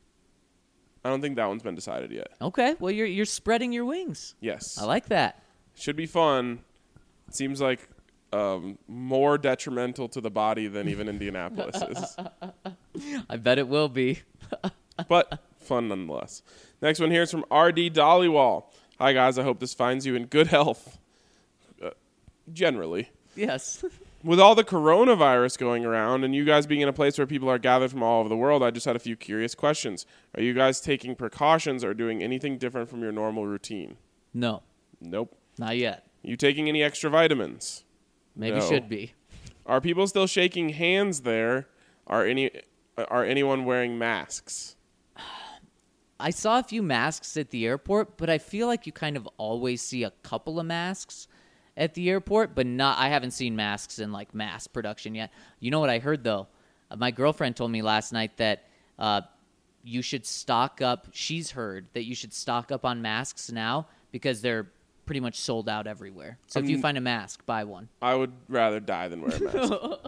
I don't think that one's been decided yet. Okay, well, you're you're spreading your wings. Yes, I like that. should be fun. Seems like um, more detrimental to the body than even Indianapolis is, I bet it will be. but fun nonetheless. Next one here is from R D Dollywall. Hi guys, I hope this finds you in good health. Uh, generally. Yes. With all the coronavirus going around and you guys being in a place where people are gathered from all over the world, I just had a few curious questions. Are you guys taking precautions or doing anything different from your normal routine? No, Nope. not yet. You taking any extra vitamins? Maybe No. should be. Are people still shaking hands there? Are any are anyone wearing masks? I saw a few masks at the airport, but I feel like you kind of always see a couple of masks at the airport, but not. I haven't seen masks in like mass production yet. You know what I heard though? Uh, my girlfriend told me last night that uh, you should stock up. She's heard that you should stock up on masks now because they're pretty much sold out everywhere. So if you Um, find a mask, buy one. I would rather die than wear a mask.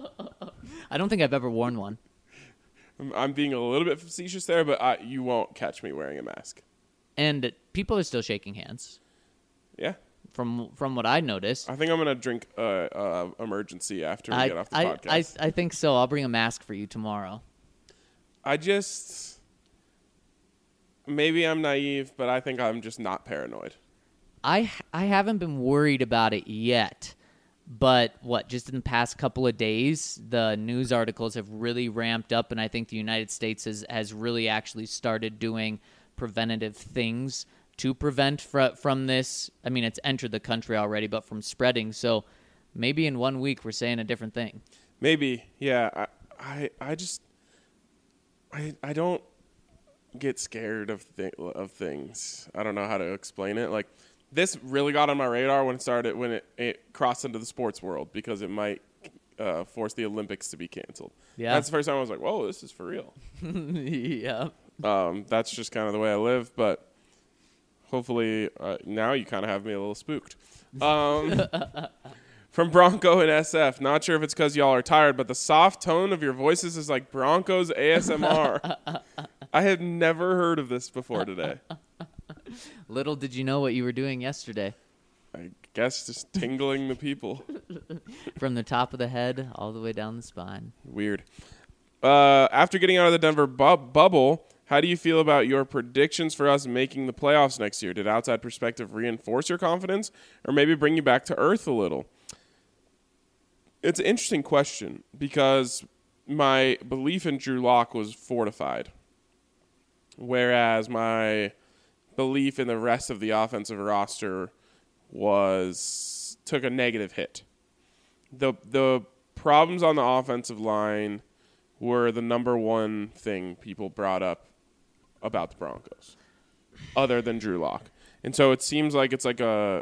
I don't think I've ever worn one. I'm- I'm being a little bit facetious there, but I, you won't catch me wearing a mask. And people are still shaking hands. Yeah. From from what I noticed. I think I'm going to drink uh, uh, emergency after we I, get off the I, podcast. I, I think so. I'll bring a mask for you tomorrow. I just... Maybe I'm naive, but I think I'm just not paranoid. I I haven't been worried about it yet. But what, just in the past couple of days, the news articles have really ramped up, and I think the United States has, has really actually started doing preventative things to prevent fr- from this. I mean, it's entered the country already, but from spreading. So maybe in one week we're saying a different thing. Maybe, yeah. I I, I just... I I don't get scared of th- of things. I don't know how to explain it. Like... This really got on my radar when it started, when it, it crossed into the sports world, because it might uh, force the Olympics to be canceled. Yeah. That's the first time I was like, whoa, this is for real. Yeah. Um, that's just kind of the way I live, but hopefully uh, now you kind of have me a little spooked. Um, from Bronco and S F, not sure if it's because y'all are tired, but the soft tone of your voices is like Broncos A S M R. I had never heard of this before today. Little did you know what you were doing yesterday. I guess just tingling the people. From the top of the head all the way down the spine. Weird. Uh, after getting out of the Denver bu- bubble, how do you feel about your predictions for us making the playoffs next year? Did outside perspective reinforce your confidence or maybe bring you back to earth a little? It's an interesting question because my belief in Drew Lock was fortified, whereas my belief in the rest of the offensive roster was took a negative hit. The the problems on the offensive line were the number one thing people brought up about the Broncos, other than Drew Lock. And so it seems like it's like a,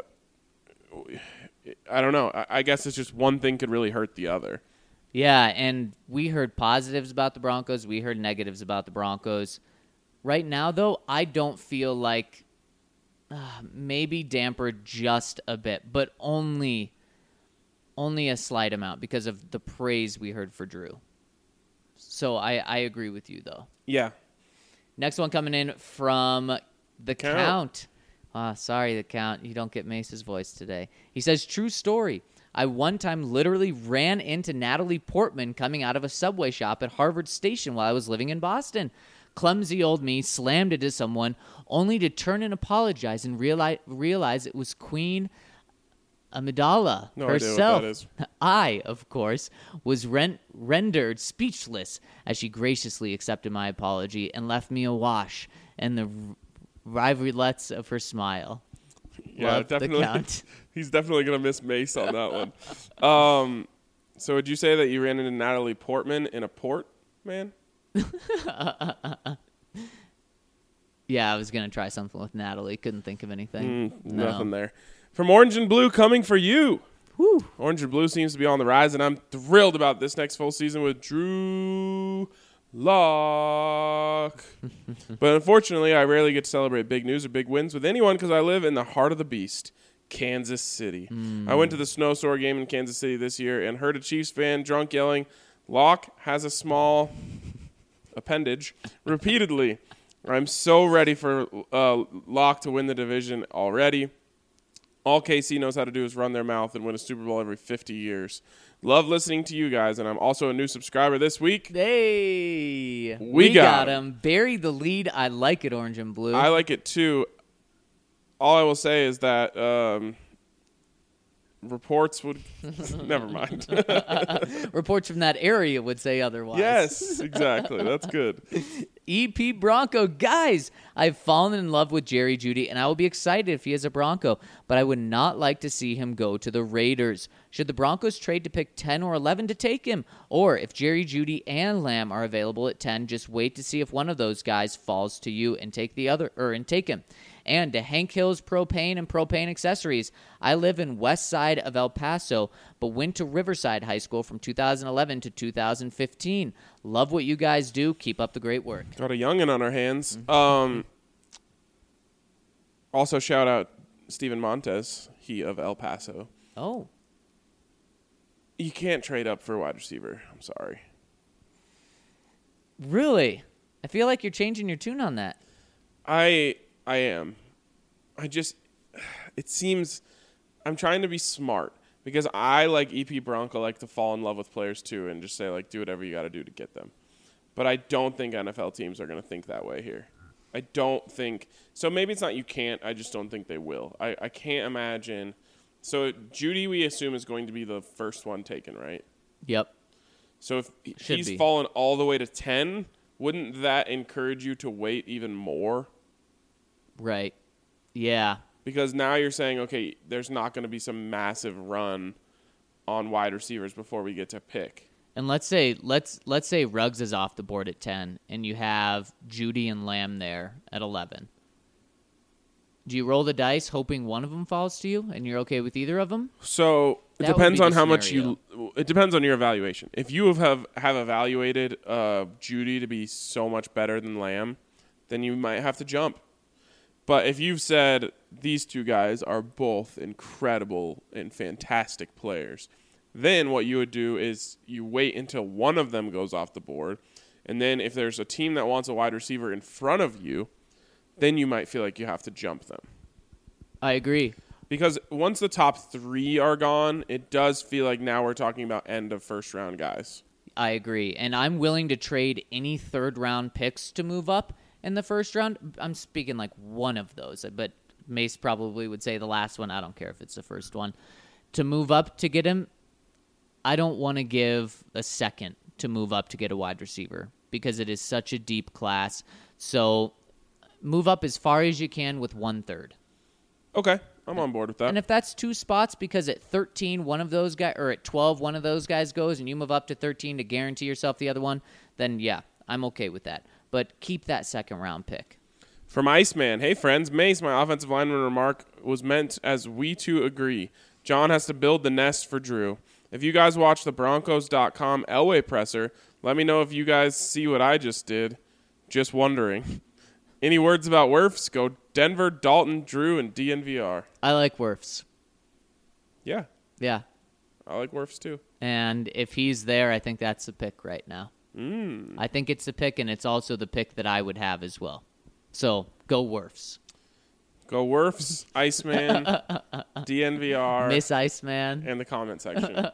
I don't know, I, I guess it's just one thing could really hurt the other. Yeah, and we heard positives about the Broncos. We heard negatives about the Broncos. Right now, though, I don't feel like uh, maybe dampered just a bit, but only only a slight amount because of the praise we heard for Drew. So I, I agree with you, though. Yeah. Next one coming in from the Count. Count. Ah, sorry, the Count. You don't get Mace's voice today. He says, true story. I one time literally ran into Natalie Portman coming out of a Subway shop at Harvard Station while I was living in Boston. Clumsy old me slammed into someone only to turn and apologize and realize, realize it was Queen Amidala No herself. idea what that is. I, of course, was ren- rendered speechless as she graciously accepted my apology and left me awash in the r- rivulets of her smile. Yeah, Love the definitely. Count. He's definitely going to miss Mace on that one. Um, so would you say that you ran into Natalie Portman in a port, man? Yeah, I was going to try something with Natalie. Couldn't think of anything. Mm, No. Nothing there. From Orange and Blue coming for you. Whew. Orange and Blue seems to be on the rise, and I'm thrilled about this next full season with Drew Lock. But unfortunately, I rarely get to celebrate big news or big wins with anyone because I live in the heart of the beast, Kansas City. Mm. I went to the Snowstorm game in Kansas City this year and heard a Chiefs fan drunk yelling, Lock has a small appendage, repeatedly. I'm so ready for uh, Lock to win the division already. All K C knows how to do is run their mouth and win a Super Bowl every fifty years. Love listening to you guys, and I'm also a new subscriber this week. Hey, We got him. Bury the lead. I like it, Orange and Blue. I like it too. All I will say is that um, reports would... Never mind. Reports from that area would say otherwise. Yes, exactly. That's good. E P Bronco. Guys, I've fallen in love with Jerry Jeudy, and I will be excited if he is a Bronco, but I would not like to see him go to the Raiders. Should the Broncos trade to pick ten or eleven to take him? Or if Jerry Jeudy and Lamb are available at ten, just wait to see if one of those guys falls to you and take the other or and take him. And to Hank Hill's Propane and Propane Accessories. I live in west side of El Paso, but went to Riverside High School from two thousand eleven to two thousand fifteen. Love what you guys do. Keep up the great work. Got a youngin' on our hands. Um, also, shout out Steven Montez, he of El Paso. Oh. You can't trade up for a wide receiver. I'm sorry. Really? I feel like you're changing your tune on that. I I am. I just, it seems, I'm trying to be smart because I, like E P Bronco, like to fall in love with players too and just say, like, do whatever you got to do to get them. But I don't think N F L teams are going to think that way here. I don't think, so maybe it's not you can't, I just don't think they will. I, I can't imagine. So Judy, we assume, is going to be the first one taken, right? Yep. So if Should he's be. fallen all the way to ten, wouldn't that encourage you to wait even more? Right. Yeah. Because now you're saying, okay, there's not going to be some massive run on wide receivers before we get to pick. And let's say let's let's say Ruggs is off the board at ten, and you have Judy and Lamb there at eleven. Do you roll the dice hoping one of them falls to you, and you're okay with either of them? So it That would depends be on the how much scenario. you. It depends on your evaluation. If you have have evaluated uh, Judy to be so much better than Lamb, then you might have to jump. But if you've said these two guys are both incredible and fantastic players, then what you would do is you wait until one of them goes off the board, and then if there's a team that wants a wide receiver in front of you, then you might feel like you have to jump them. I agree. Because once the top three are gone, it does feel like now we're talking about end of first round guys. I agree. And I'm willing to trade any third round picks to move up in the first round. I'm speaking like one of those, but Mace probably would say the last one. I don't care if it's the first one. To move up to get him, I don't want to give a second to move up to get a wide receiver because it is such a deep class. So move up as far as you can with one third. Okay, I'm on board with that. And if that's two spots because at thirteen, one of those guys, or at twelve, one of those guys goes, and you move up to thirteen to guarantee yourself the other one, then yeah, I'm okay with that. But keep that second round pick. From Iceman, hey friends, Mace, my offensive lineman remark was meant as we two agree. John has to build the nest for Drew. If you guys watch the Broncos dot com Elway presser, let me know if you guys see what I just did. Just wondering. Any words about Wirfs? Go Denver, Dalton, Drew, and D N V R. I like Wirfs. Yeah, Yeah. I like Wirfs too. And if he's there, I think that's the pick right now. Mm. I think it's the pick, and it's also the pick that I would have as well. So go Wirfs. Go Wirfs, Iceman, D N V R, Miss Iceman. and the comment section.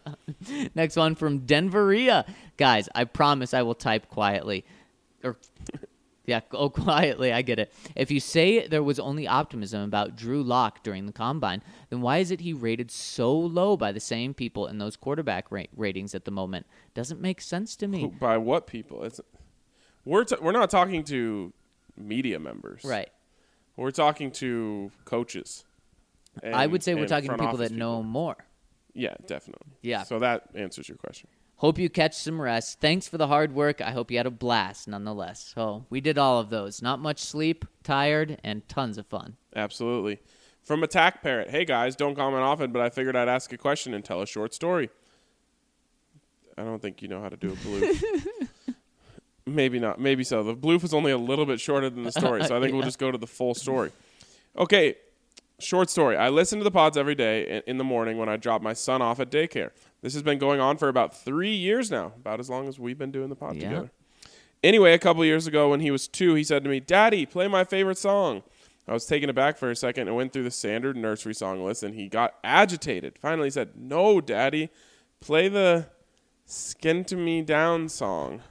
Next one from Denveria. Guys, I promise I will type quietly. Or, yeah, go quietly. I get it. If you say there was only optimism about Drew Lock during the Combine, then why is it he rated so low by the same people in those quarterback ra- ratings at the moment? Doesn't make sense to me. By what people? It's we're t- we're not talking to media members, Right. We're talking to coaches. And, I would say we're and talking to front people office that know more. Yeah, definitely. Yeah. So that answers your question. Hope you catch some rest. Thanks for the hard work. I hope you had a blast nonetheless. So we did all of those. Not much sleep, tired, and tons of fun. Absolutely. From Attack Parrot, hey guys, don't comment often, but I figured I'd ask a question and tell a short story. I don't think you know how to do a bloof. Maybe not. Maybe so. The bloof is only a little bit shorter than the story, so I think Yeah. we'll just go to the full story. Okay, short story. I listen to the pods every day in- in the morning when I drop my son off at daycare. This has been going on for about three years now, about as long as we've been doing the pod Yeah. together. Anyway, a couple years ago when he was two, he said to me, "Daddy, play my favorite song." I was taken aback for a second and went through the standard nursery song list, and he got agitated. Finally, he said, "No, Daddy, play the Skin to Me Down song."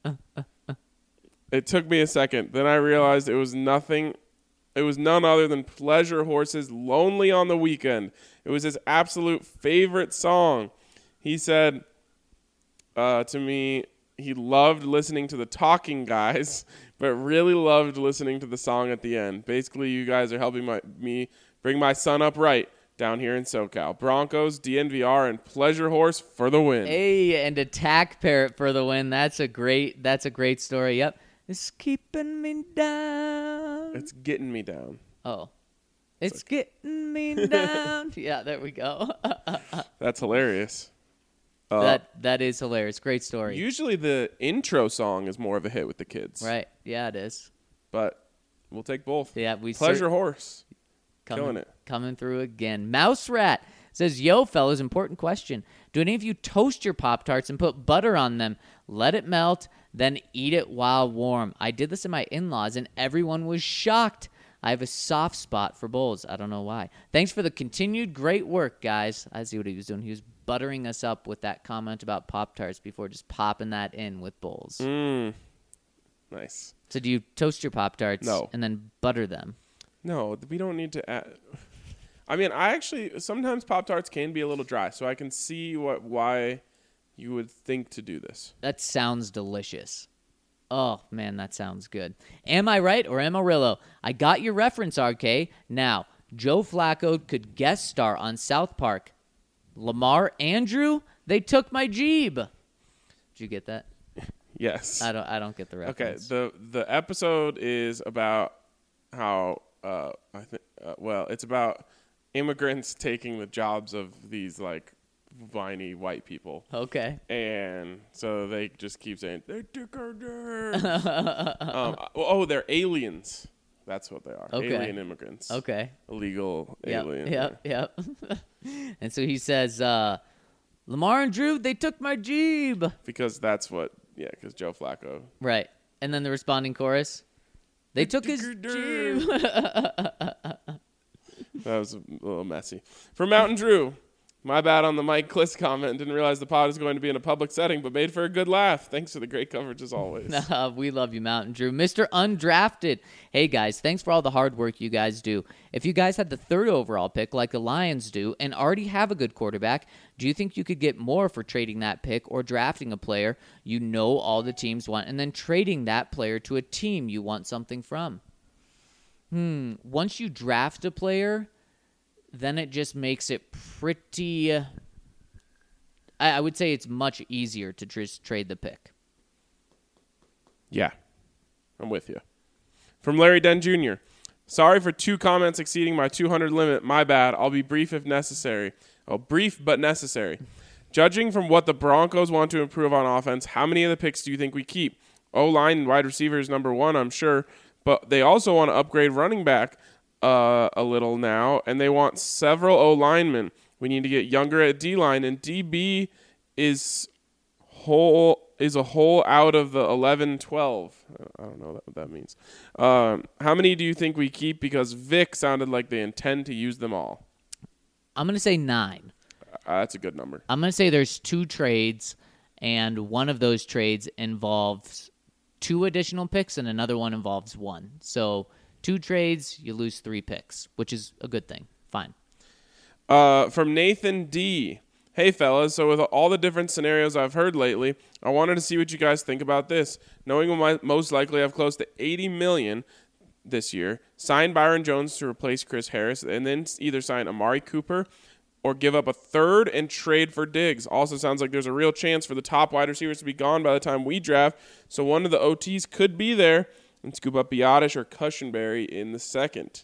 It took me a second. Then I realized it was nothing. It was none other than Pleasure Horse's Lonely on the Weekend. It was his absolute favorite song. He said uh, to me he loved listening to the Talking Guys, but really loved listening to the song at the end. Basically, you guys are helping my, me bring my son up right down here in SoCal. Broncos, D N V R, and Pleasure Horse for the win. Hey, and Attack Parrot for the win. That's a great. That's a great story. Yep. It's keeping me down. It's getting me down. Oh. It's getting me down. Yeah, there we go. That's hilarious. Uh, that that is hilarious. Great story. Usually the intro song is more of a hit with the kids. Right. Yeah, it is. But we'll take both. Yeah, we Pleasure cer- Horse. coming, Killing it. Coming through again. Mouse Rat says, "Yo, fellas, important question. Do any of you toast your Pop-Tarts and put butter on them? Let it melt, then eat it while warm. I did this in my in-laws, and everyone was shocked. I have a soft spot for bowls. I don't know why. Thanks for the continued great work, guys. I see what he was doing. He was buttering us up with that comment about Pop-Tarts before just popping that in with bowls. Mm. Nice. So do you toast your Pop-Tarts No. and then butter them? No, we don't need to add. I mean, I actually, sometimes Pop-Tarts can be a little dry, so I can see what why you would think to do this. That sounds delicious. Oh, man, that sounds good. Am I right or Amarillo? I got your reference, R K. Now, Joe Flacco could guest star on South Park. Lamar Andrew, they took my Jeeb. Did you get that? Yes. I don't I don't get the Okay, reference. the the episode is about how, uh, I think, uh, well, it's about immigrants taking the jobs of these, like, whiny white people. Okay. And so they just keep saying, they took our jobs. um, oh, they're aliens. That's what they are. Okay. Alien immigrants. Okay. Illegal Yep, alien. yep, yep. And so he says, uh, Lamar and Drew, they took my Jeeb. Because that's what, yeah, because Joe Flacco. Right. And then the responding chorus, they took his took Jeeb. That was a little messy. For Mountain Drew, my bad on the Mike Kliss comment. Didn't realize the pod is going to be in a public setting, but made for a good laugh. Thanks for the great coverage as always. Uh, we love you, Mountain Drew. Mister Undrafted. Hey, guys, thanks for all the hard work you guys do. If you guys had the third overall pick like the Lions do and already have a good quarterback, do you think you could get more for trading that pick or drafting a player you know all the teams want and then trading that player to a team you want something from? Hmm. Once you draft a player, then it just makes it pretty... I, I would say it's much easier to just trade the pick. Yeah, I'm with you. From Larry Den Junior Sorry for two comments exceeding my two hundred limit. My bad. I'll be brief if necessary. Oh, brief but necessary. Judging from what the Broncos want to improve on offense, how many of the picks do you think we keep? O-line and wide receiver is number one, I'm sure. But they also want to upgrade running back uh, a little now, and they want several O-linemen. We need to get younger at D-line, and D B is whole is a hole out of the eleven twelve. I don't know what that means. Um, how many do you think we keep? Because Vic sounded like they intend to use them all. I'm going to say nine. Uh, that's a good number. I'm going to say there's two trades, and one of those trades involves two additional picks, and another one involves one. So two trades, you lose three picks, which is a good thing. Fine. Uh, from Nathan D. Hey, fellas. So with all the different scenarios I've heard lately, I wanted to see what you guys think about this. Knowing we might most likely have close to eighty million dollars this year, sign Byron Jones to replace Chris Harris, and then either sign Amari Cooper or give up a third and trade for Diggs. Also sounds like there's a real chance for the top wide receivers to be gone by the time we draft, so one of the O Ts could be there and scoop up Biotish or Cushenberry in the second.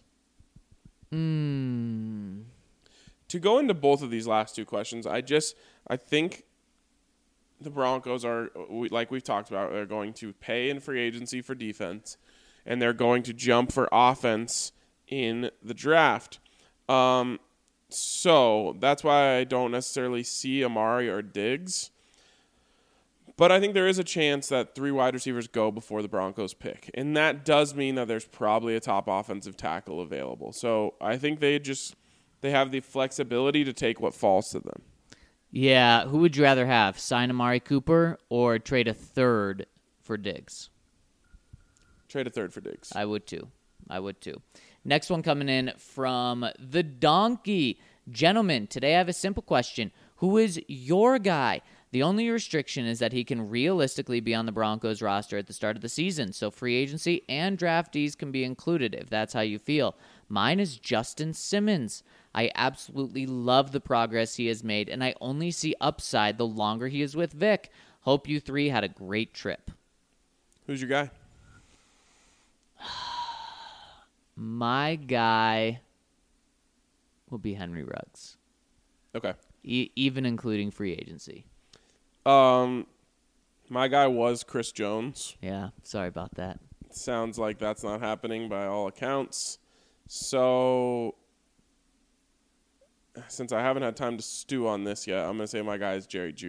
Hmm. To go into both of these last two questions, I just I think the Broncos are, like we've talked about, they're going to pay in free agency for defense, and they're going to jump for offense in the draft. Um, so that's why I don't necessarily see Amari or Diggs. But I think there is a chance that three wide receivers go before the Broncos pick. And that does mean that there's probably a top offensive tackle available. So I think they just... They have the flexibility to take what falls to them. Yeah, who would you rather have? Sign Amari Cooper or trade a third for Diggs? Trade a third for Diggs. I would too. I would too. Next one coming in from the Donkey. Gentlemen, today I have a simple question. Who is your guy? The only restriction is that he can realistically be on the Broncos roster at the start of the season, so free agency and draftees can be included if that's how you feel. Mine is Justin Simmons. I absolutely love the progress he has made, and I only see upside the longer he is with Vic. Hope you three had a great trip. Who's your guy? My guy will be Henry Ruggs, Okay. e- even including free agency. Um, my guy was Chris Jones. Yeah, sorry about that. Sounds like that's not happening by all accounts. So, since I haven't had time to stew on this yet, I'm going to say my guy is Jerry Jeudy.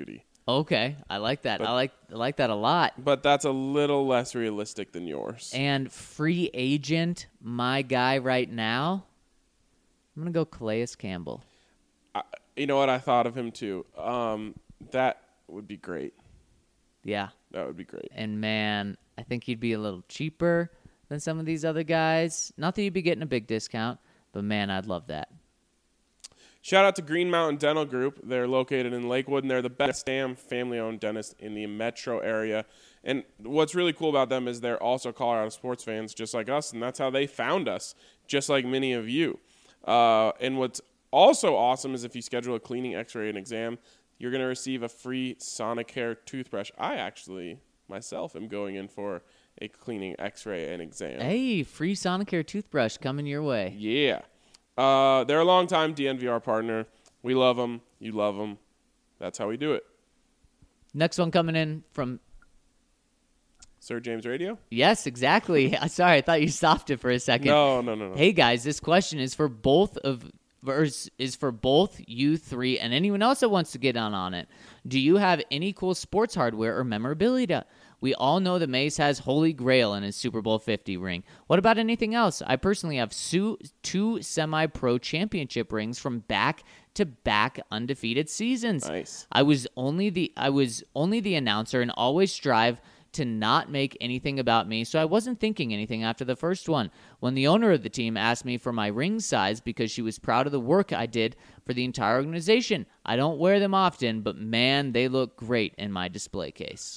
Okay, I like that. But- I like I like that a lot. But that's a little less realistic than yours. And free agent, my guy right now, I'm going to go Calais Campbell. I, you know what? I thought of him too. Um, that would be great. Yeah. That would be great. And, man, I think he'd be a little cheaper than some of these other guys. Not that you'd be getting a big discount, but, man, I'd love that. Shout out to Green Mountain Dental Group. They're located in Lakewood, and they're the best damn family-owned dentist in the metro area. And what's really cool about them is they're also Colorado sports fans just like us, and that's how they found us, just like many of you. Uh, and what's also awesome is if you schedule a cleaning, x-ray, and exam, you're going to receive a free Sonicare toothbrush. I actually, myself, am going in for a cleaning, x-ray, and exam. Hey, free Sonicare toothbrush coming your way. Yeah. Uh, they're a longtime D N V R partner. We love them. You love them. That's how we do it. Next one coming in from... Sir James Radio? Yes, exactly. Sorry, I thought you stopped it for a second. No, no, no, no. Hey, guys, this question is for both of... is for both you three and anyone else that wants to get on on it. Do you have any cool sports hardware or memorabilia? We all know that Mace has Holy Grail in his Super Bowl fifty ring. What about anything else? I personally have su- two semi-pro championship rings from back-to-back undefeated seasons. Nice. I was only the I was only the announcer and always strive to not make anything about me, so I wasn't thinking anything after the first one. When the owner of the team asked me for my ring size because she was proud of the work I did for the entire organization, I don't wear them often, but man, they look great in my display case.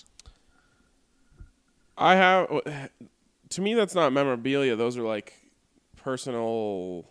I have, to me, that's not memorabilia. Those are like personal,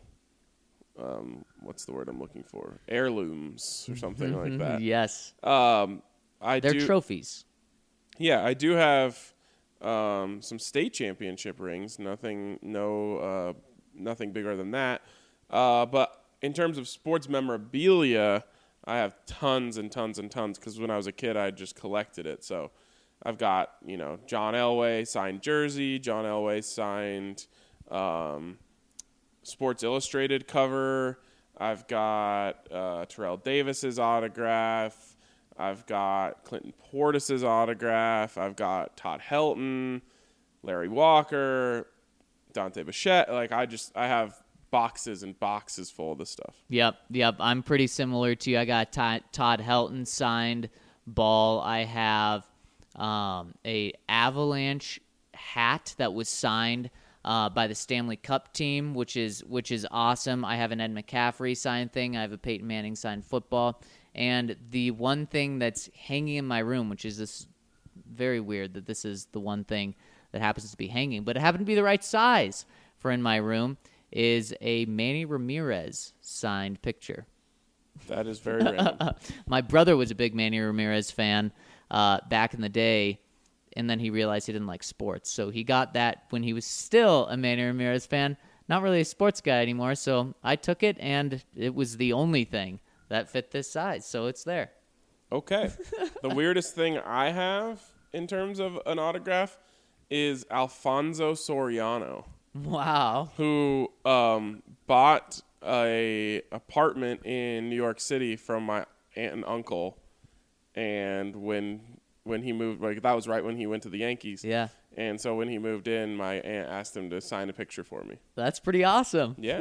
um, what's the word I'm looking for? Heirlooms or something like that. Yes. Um, I They're do, trophies. Yeah, I do have um, some state championship rings. Nothing, no, uh, nothing bigger than that. Uh, but in terms of sports memorabilia, I have tons and tons and tons because when I was a kid, I just collected it. So I've got, you know, John Elway signed jersey, John Elway signed um, Sports Illustrated cover. I've got uh, Terrell Davis's autograph. I've got Clinton Portis's autograph. I've got Todd Helton, Larry Walker, Dante Bichette. Like, I just, I have boxes and boxes full of this stuff. Yep, yep. I'm pretty similar to you. I got Todd, Todd Helton signed ball. I have um, a Avalanche hat that was signed uh, by the Stanley Cup team, which is which is awesome. I have an Ed McCaffrey signed thing. I have a Peyton Manning signed football. And the one thing that's hanging in my room, which is this very weird that this is the one thing that happens to be hanging, but it happened to be the right size for in my room, is a Manny Ramirez signed picture. That is very random. My brother was a big Manny Ramirez fan uh, back in the day, and then he realized he didn't like sports. So he got that when he was still a Manny Ramirez fan. Not really a sports guy anymore, so I took it, and it was the only thing that fit this size, so it's there. Okay. The weirdest thing I have in terms of an autograph is Alfonso Soriano, Wow. who um, bought a apartment in New York City from my aunt and uncle, and when when he moved, like that was right when he went to the Yankees. Yeah. And so when he moved in, my aunt asked him to sign a picture for me. That's pretty awesome. Yeah.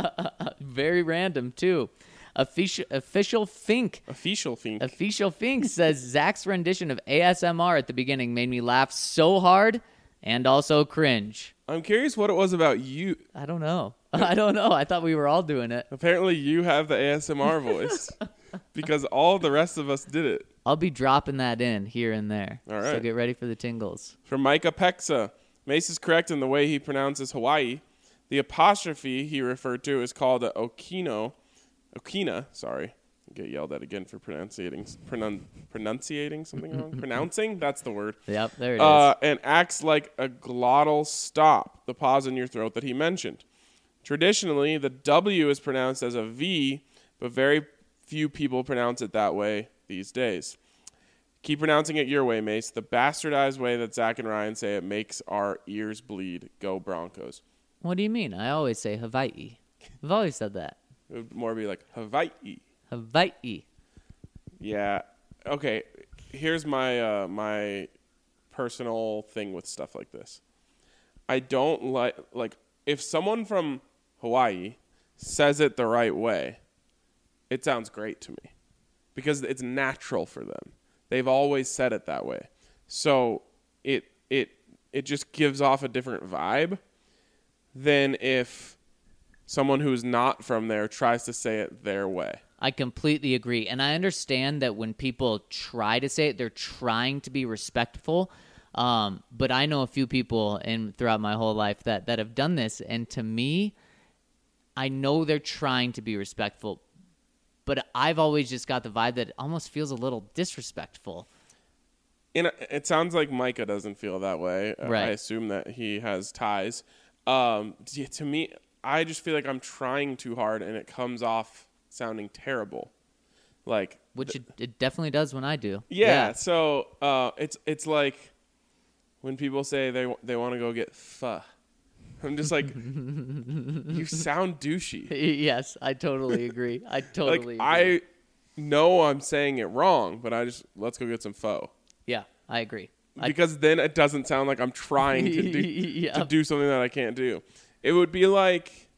Very random, too. Official, official Fink. Official Fink. Official Fink says Zach's rendition of A S M R at the beginning made me laugh so hard and also cringe. I'm curious what it was about you. I don't know. I don't know. I thought we were all doing it. Apparently you have the A S M R voice because all the rest of us did it. I'll be dropping that in here and there. All So right. get ready for the tingles. From Micah Pexa, Mace is correct in the way he pronounces Hawaii. The apostrophe he referred to is called a Okino. Okina, sorry. I'll get yelled at again for pronunciating pronun, pronunciating something wrong. Pronouncing? That's the word. Yep, there it Uh, is. and acts like a glottal stop, the pause in your throat that he mentioned. Traditionally, the W is pronounced as a V, but very few people pronounce it that way these days. Keep pronouncing it your way, Mace. The bastardized way that Zach and Ryan say it makes our ears bleed. Go Broncos. What do you mean? I always say Hawaii. I've always said that. It would more be like Hawaii. Hawaii. Yeah. Okay. here's my uh, my personal thing with stuff like this. I don't like like if someone from Hawaii says it the right way, it sounds great to me because it's natural for them. They've always said it that way. So it it it just gives off a different vibe than if someone who's not from there tries to say it their way. I completely agree. And I understand that when people try to say it, they're trying to be respectful. Um, but I know a few people in throughout my whole life that, that have done this. And to me, I know they're trying to be respectful, but I've always just got the vibe that it almost feels a little disrespectful. And it sounds like Micah doesn't feel that way. Right. I assume that he has ties. Um, to me, I just feel like I'm trying too hard and it comes off sounding terrible. Like Which it, it definitely does when I do. Yeah, yeah. so uh, it's it's like when people say they they want to go get pho. I'm just like, you sound douchey. Yes, I totally agree. I totally like, agree. I know I'm saying it wrong, but I just, let's go get some pho. Yeah, I agree. Because I, then it doesn't sound like I'm trying to do, yeah. to do something that I can't do. It would be like,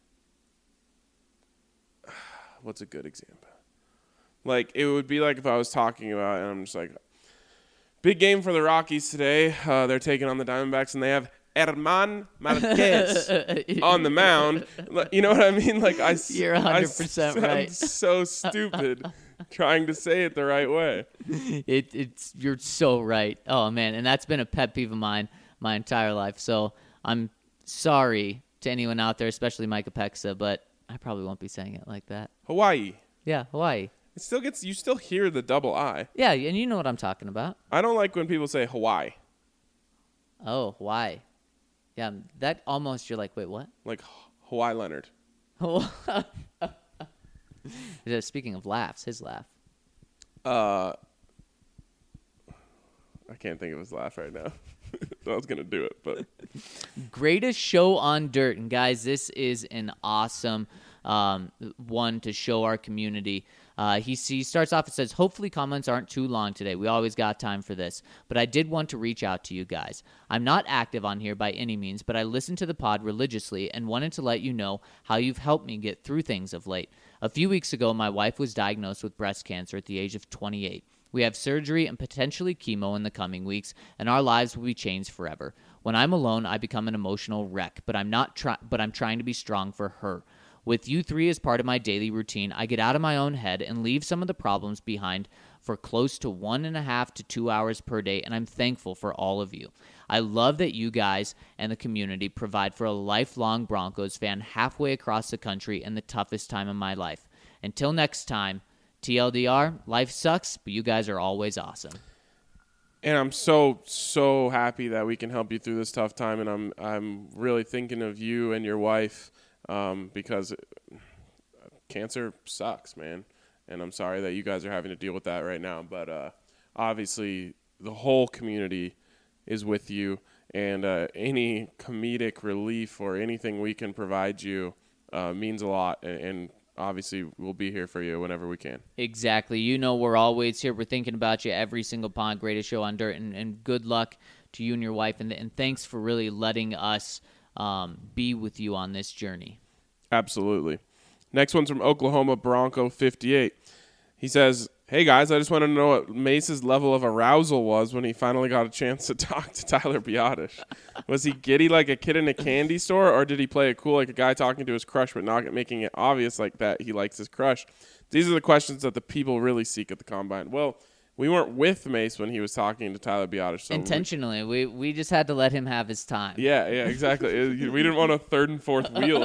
what's a good example? Like, it would be like if I was talking about, and I'm just like, big game for the Rockies today. Uh, they're taking on the Diamondbacks, and they have Herman Marquez on the mound. You know what I mean? Like I, You're one hundred percent I right. so stupid trying to say it the right way. It, it's You're so right. Oh, man, and that's been a pet peeve of mine my entire life. So I'm sorry to anyone out there, especially Micah Pexa, but I probably won't be saying it like that. Hawaii. Yeah, Hawaii. It still gets, you still hear the double I. Yeah, and you know what I'm talking about. I don't like when people say Hawaii. Oh, Hawaii. Yeah, that almost, you're like, wait, what? Like Hawaii Leonard. Speaking of laughs, his laugh. Uh, I can't think of his laugh right now. I was going to do it, but. Greatest show on dirt. And guys, this is an awesome um, one to show our community. Uh, he, he starts off and says, hopefully comments aren't too long today. We always got time for this. But I did want to reach out to you guys. I'm not active on here by any means, but I listen to the pod religiously and wanted to let you know how you've helped me get through things of late. A few weeks ago, my wife was diagnosed with breast cancer at the age of twenty-eight. We have surgery and potentially chemo in the coming weeks, and our lives will be changed forever. When I'm alone, I become an emotional wreck, but I'm not try- but I'm trying to be strong for her. With you three as part of my daily routine, I get out of my own head and leave some of the problems behind for close to one and a half to two hours per day, and I'm thankful for all of you. I love that you guys and the community provide for a lifelong Broncos fan halfway across the country in the toughest time of my life. Until next time, T L D R, life sucks, but you guys are always awesome. And I'm so, so happy that we can help you through this tough time, and I'm I'm really thinking of you and your wife um, because cancer sucks, man. And I'm sorry that you guys are having to deal with that right now. But uh, obviously, the whole community is with you, and uh, any comedic relief or anything we can provide you uh, means a lot. And, and obviously, we'll be here for you whenever we can. Exactly. You know we're always here. We're thinking about you every single pod. Greatest show on dirt. And, and good luck to you and your wife. And, and thanks for really letting us um, be with you on this journey. Absolutely. Next one's from Oklahoma Bronco fifty-eight. He says, hey, guys, I just want to know what Mace's level of arousal was when he finally got a chance to talk to Tyler Biadasz. Was he giddy like a kid in a candy store, or did he play it cool like a guy talking to his crush but not making it obvious like that he likes his crush? These are the questions that the people really seek at the Combine. Well, we weren't with Mace when he was talking to Tyler Biadasz. So Intentionally. We, we we just had to let him have his time. Yeah, yeah, exactly. We didn't want to third and fourth wheel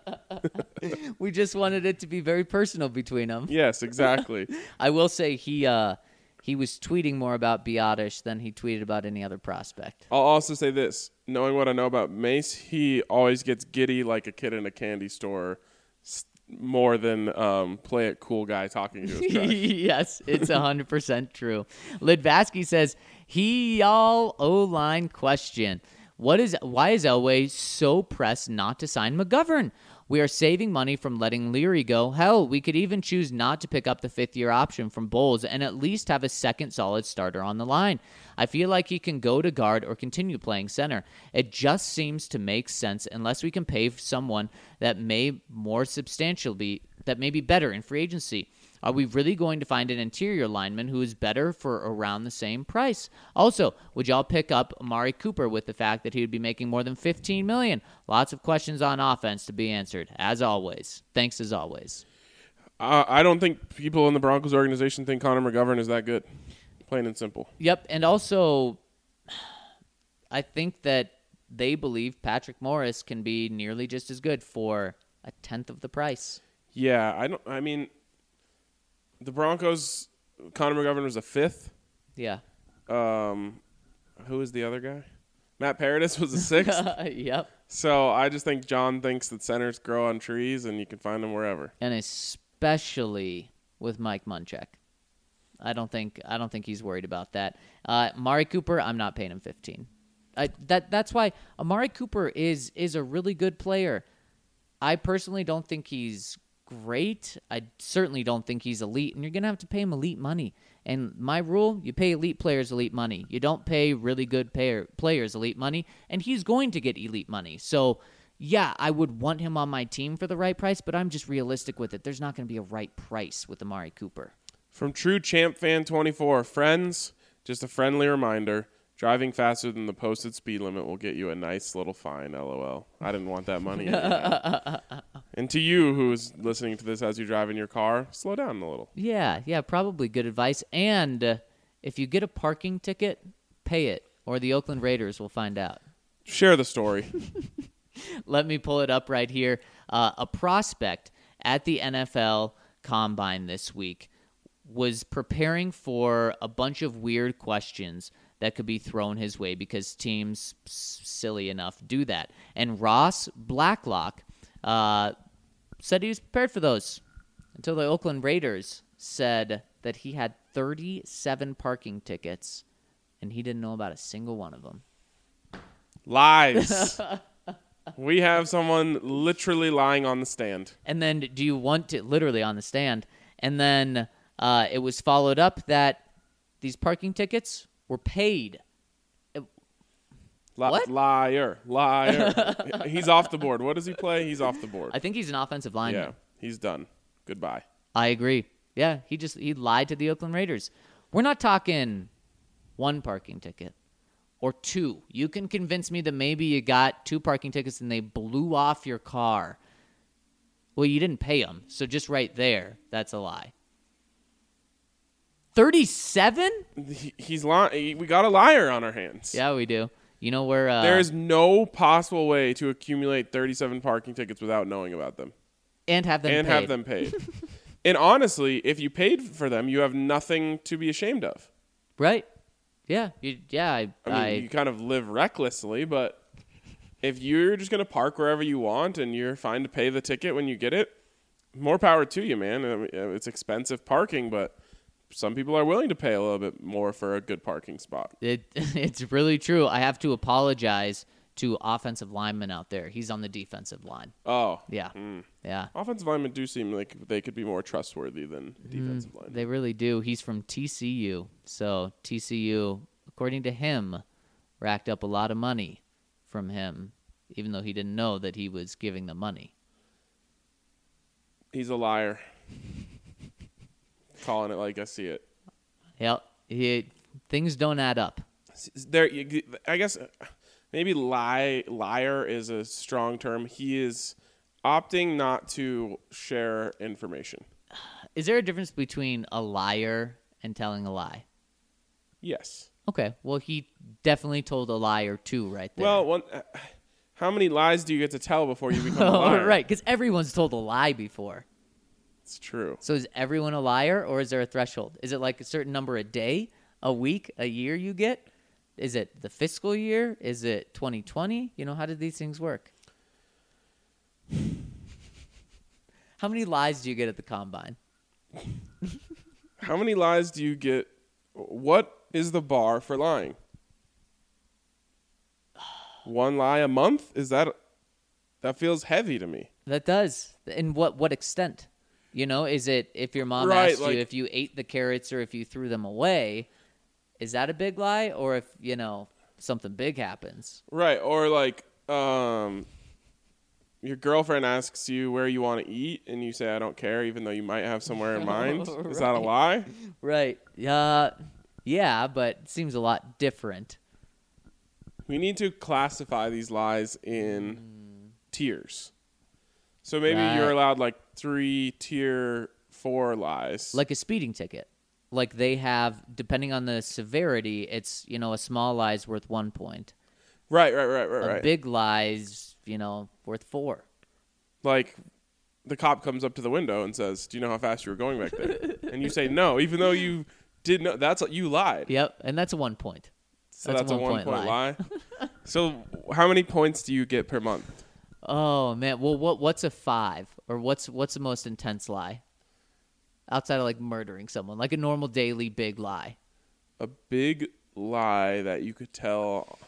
it. We just wanted it to be very personal between them. Yes, exactly. I will say he uh, he was tweeting more about Biadasz than he tweeted about any other prospect. I'll also say this. Knowing what I know about Mace, he always gets giddy like a kid in a candy store more than um, play it cool guy talking to his crush. Yes, it's one hundred percent true. Lidvaski says, he y'all O-line question. What is why is Elway so pressed not to sign McGovern? We are saving money from letting Leary go. Hell, we could even choose not to pick up the fifth-year option from Bowles and at least have a second solid starter on the line. I feel like he can go to guard or continue playing center. It just seems to make sense unless we can pay someone that may more substantial be that may be better in free agency. Are we really going to find an interior lineman who is better for around the same price? Also, would y'all pick up Amari Cooper with the fact that he would be making more than fifteen million dollars? Lots of questions on offense to be answered, as always. Thanks as always. Uh, I don't think people in the Broncos organization think Connor McGovern is that good, plain and simple. Yep, and also, I think that they believe Patrick Morris can be nearly just as good for a tenth of the price. Yeah, I don't. I mean, the Broncos, Connor McGovern was a fifth. Yeah. Um, who was the other guy? Matt Paradis was a sixth. Yep. So I just think John thinks that centers grow on trees and you can find them wherever. And especially with Mike Munchak. I don't think I don't think he's worried about that. Uh, Amari Cooper, I'm not paying him fifteen. I, that that's why Amari Cooper is is a really good player. I personally don't think he's great. I certainly don't think he's elite, and you're going to have to pay him elite money. And my rule, you pay elite players elite money. You don't pay really good payer, players elite money, and he's going to get elite money. So, yeah, I would want him on my team for the right price, but I'm just realistic with it. There's not going to be a right price with Amari Cooper. From True Champ Fan twenty-four, friends, just a friendly reminder, driving faster than the posted speed limit will get you a nice little fine, LOL. I didn't want that money. And to you who is listening to this as you drive in your car, slow down a little. Yeah, yeah, probably good advice. And uh, if you get a parking ticket, pay it, or the Oakland Raiders will find out. Share the story. Let me pull it up right here. Uh, a prospect at the N F L Combine this week was preparing for a bunch of weird questions that could be thrown his way because teams, silly enough, do that. And Ross Blacklock uh, said he was prepared for those until the Oakland Raiders said that he had thirty-seven parking tickets and he didn't know about a single one of them. Lies. We have someone literally lying on the stand. And then do you want to, literally on the stand, and then uh, it was followed up that these parking tickets were paid. It, Li- what? Liar. Liar. He's off the board. What does he play? He's off the board. I think he's an offensive lineman. Yeah, he's done. Goodbye. I agree. Yeah, he just he lied to the Oakland Raiders. We're not talking one parking ticket or two. You can convince me that maybe you got two parking tickets and they blew off your car. Well, you didn't pay them, so just right there, that's a lie. thirty-seven? He, he's lying. We got a liar on our hands. Yeah, we do. You know where... Uh, there is no possible way to accumulate thirty-seven parking tickets without knowing about them. And have them and paid. And have them paid. And honestly, if you paid for them, you have nothing to be ashamed of. Right. Yeah. You, yeah. I, I mean, I, you kind of live recklessly, but if you're just going to park wherever you want and you're fine to pay the ticket when you get it, more power to you, man. I mean, it's expensive parking, but some people are willing to pay a little bit more for a good parking spot. It, it's really true. I have to apologize to offensive linemen out there. He's on the defensive line. Oh. Yeah. Mm. Yeah. Offensive linemen do seem like they could be more trustworthy than defensive mm, linemen. They really do. He's from T C U. So T C U, according to him, racked up a lot of money from him, even though he didn't know that he was giving them money. He's a liar. Calling it like I see it. Yep. He, things don't add up. There, I guess maybe lie liar is a strong term. He is opting not to share information. Is there a difference between a liar and telling a lie? Yes. Okay. Well, he definitely told a lie or two right there. Well, one, uh, how many lies do you get to tell before you become a liar? Right, because everyone's told a lie before. It's true. So is everyone a liar, or is there a threshold? Is it like a certain number a day, a week, a year you get? Is it the fiscal year? Is it twenty twenty? You know, how do these things work? How many lies do you get at the Combine? How many lies do you get? What is the bar for lying? One lie a month? Is that that feels heavy to me? That does. In what what extent? You know, is it if your mom Right, asked like- you if you ate the carrots or if you threw them away, is that a big lie? Or if, you know, something big happens? Right, or like um your girlfriend asks you where you want to eat and you say I don't care even though you might have somewhere in mind. Is that a lie? Right. Uh, yeah, but it seems a lot different. We need to classify these lies in tiers. So maybe Right. you're allowed like three tier four lies. Like a speeding ticket. Like they have, depending on the severity, it's, you know, a small lie is worth one point. right, right, right, right, A right. big lie is, you know, worth four. Like the cop comes up to the window and says, "Do you know how fast you were going back there?" And you say no, even though you did know. That's what you lied. Yep, and that's a one point. So That's that's, a a one one-point point lie. lie. So how many points do you get per month? Oh man, well, what what's a five, or what's what's the most intense lie? Outside of like murdering someone, like a normal daily big lie. A big lie that you could tell,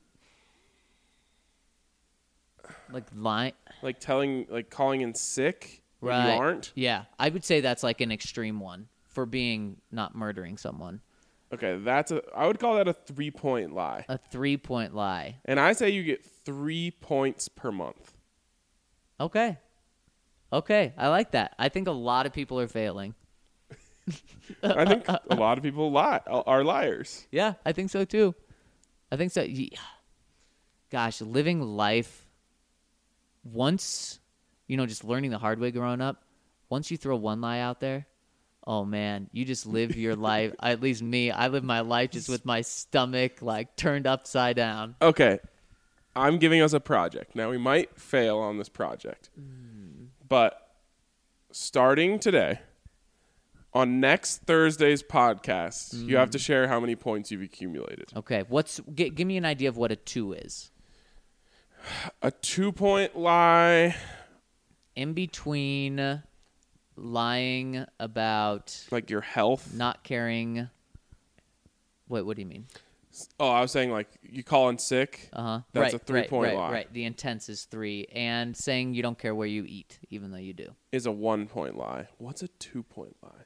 Like lie, like telling, like calling in sick when right? you aren't. Yeah, I would say that's like an extreme one for being not murdering someone. Okay, that's a. I would call that a three point lie. A three point lie. And I say you get three points per month. Okay. Okay, I like that. I think a lot of people are failing. I think a lot of people lie are liars. Yeah, I think so too. I think so. Ye- Gosh, living life once, you know, just learning the hard way growing up, once you throw one lie out there, oh man, you just live your life. At least me, I live my life just with my stomach like turned upside down. Okay, I'm giving us a project. Now we might fail on this project, but starting today, on next Thursday's podcast, you have to share how many points you've accumulated. Okay, what's g- give me an idea of what a two is. A two-point lie, In between lying about like your health. not caring. Wait, what do you mean? Oh, I was saying like you call in sick. Uh huh. That's right, a three-point right, lie. Right, right. The intense is three, and saying you don't care where you eat, even though you do. Is a one-point lie. What's a two-point lie?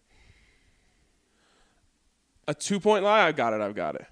A two-point lie. I've got it. I've got it.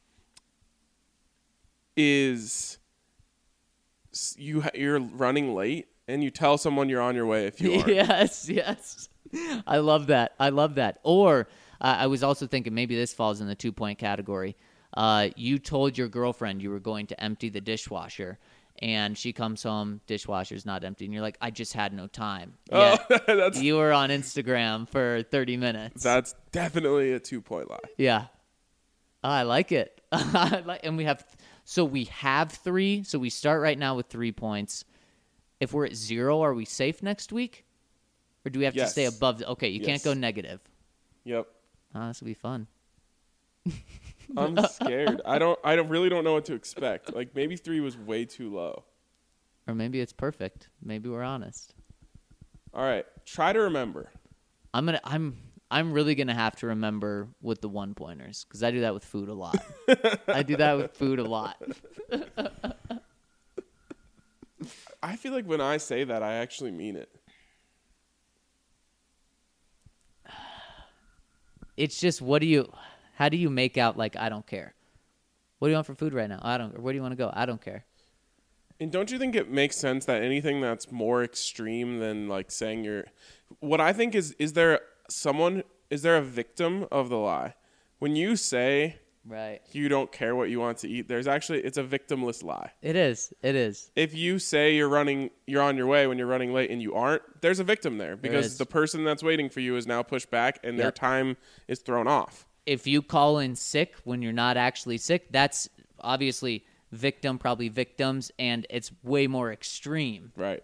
Is s- you ha- you're running late and you tell someone you're on your way if you aren't. Yes, yes. I love that. I love that. Or uh, I was also thinking maybe this falls in the two point category. Uh, you told your girlfriend you were going to empty the dishwasher, and she comes home, dishwasher's not empty, and you're like, I just had no time. Oh, Yet that's you were on Instagram for thirty minutes. that's definitely a two-point lie. Yeah. Oh, I like it. I like, and we have, so we have three. So we start right now with three points. If we're at zero, are we safe next week? Or do we have Yes. to stay above? The, okay, you can't Yes. go negative. Yep. Oh, this will be fun. I'm scared. I don't. I don't really don't know what to expect. Like maybe three was way too low. Or maybe it's perfect. Maybe we're honest. All right. Try to remember. I'm gonna. I'm. I'm really gonna have to remember with the one pointers because I do that with food a lot. I do that with food a lot. I feel like when I say that, I actually mean it. It's just, what do you? How do you make out like I don't care? What do you want for food right now? I don't. Or where do you want to go? I don't care. And don't you think it makes sense that anything that's more extreme than like saying you're what I think is is there someone is there a victim of the lie? When you say Right. you don't care what you want to eat, there's actually it's a victimless lie. It is. It is. If you say you're running you're on your way when you're running late and you aren't, there's a victim there is. because the person that's waiting for you is now pushed back and their Yep. time is thrown off. If you call in sick when you're not actually sick, that's obviously victim, probably victims, and it's way more extreme. Right.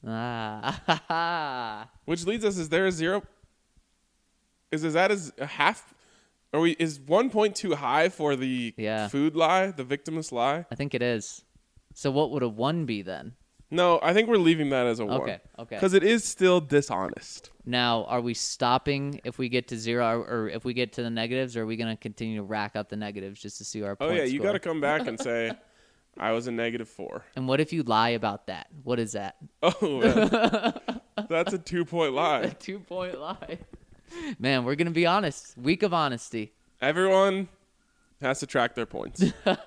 Ah, Which leads us, is there a zero? Is, is that is a half? Are we? Is one point too high for the Yeah. food lie, the victimless lie? I think it is. So what would a one be then? No, I think we're leaving that as a one. Okay, okay. Because it is still dishonest. Now, are we stopping if we get to zero, or, or if we get to the negatives, or are we going to continue to rack up the negatives just to see our Oh point yeah, you score? got to come back and say, I was a negative four. And what if you lie about that? What is that? Oh, man. That's a two-point lie. A two-point lie. Man, we're going to be honest. Week of honesty. Everyone has to track their points.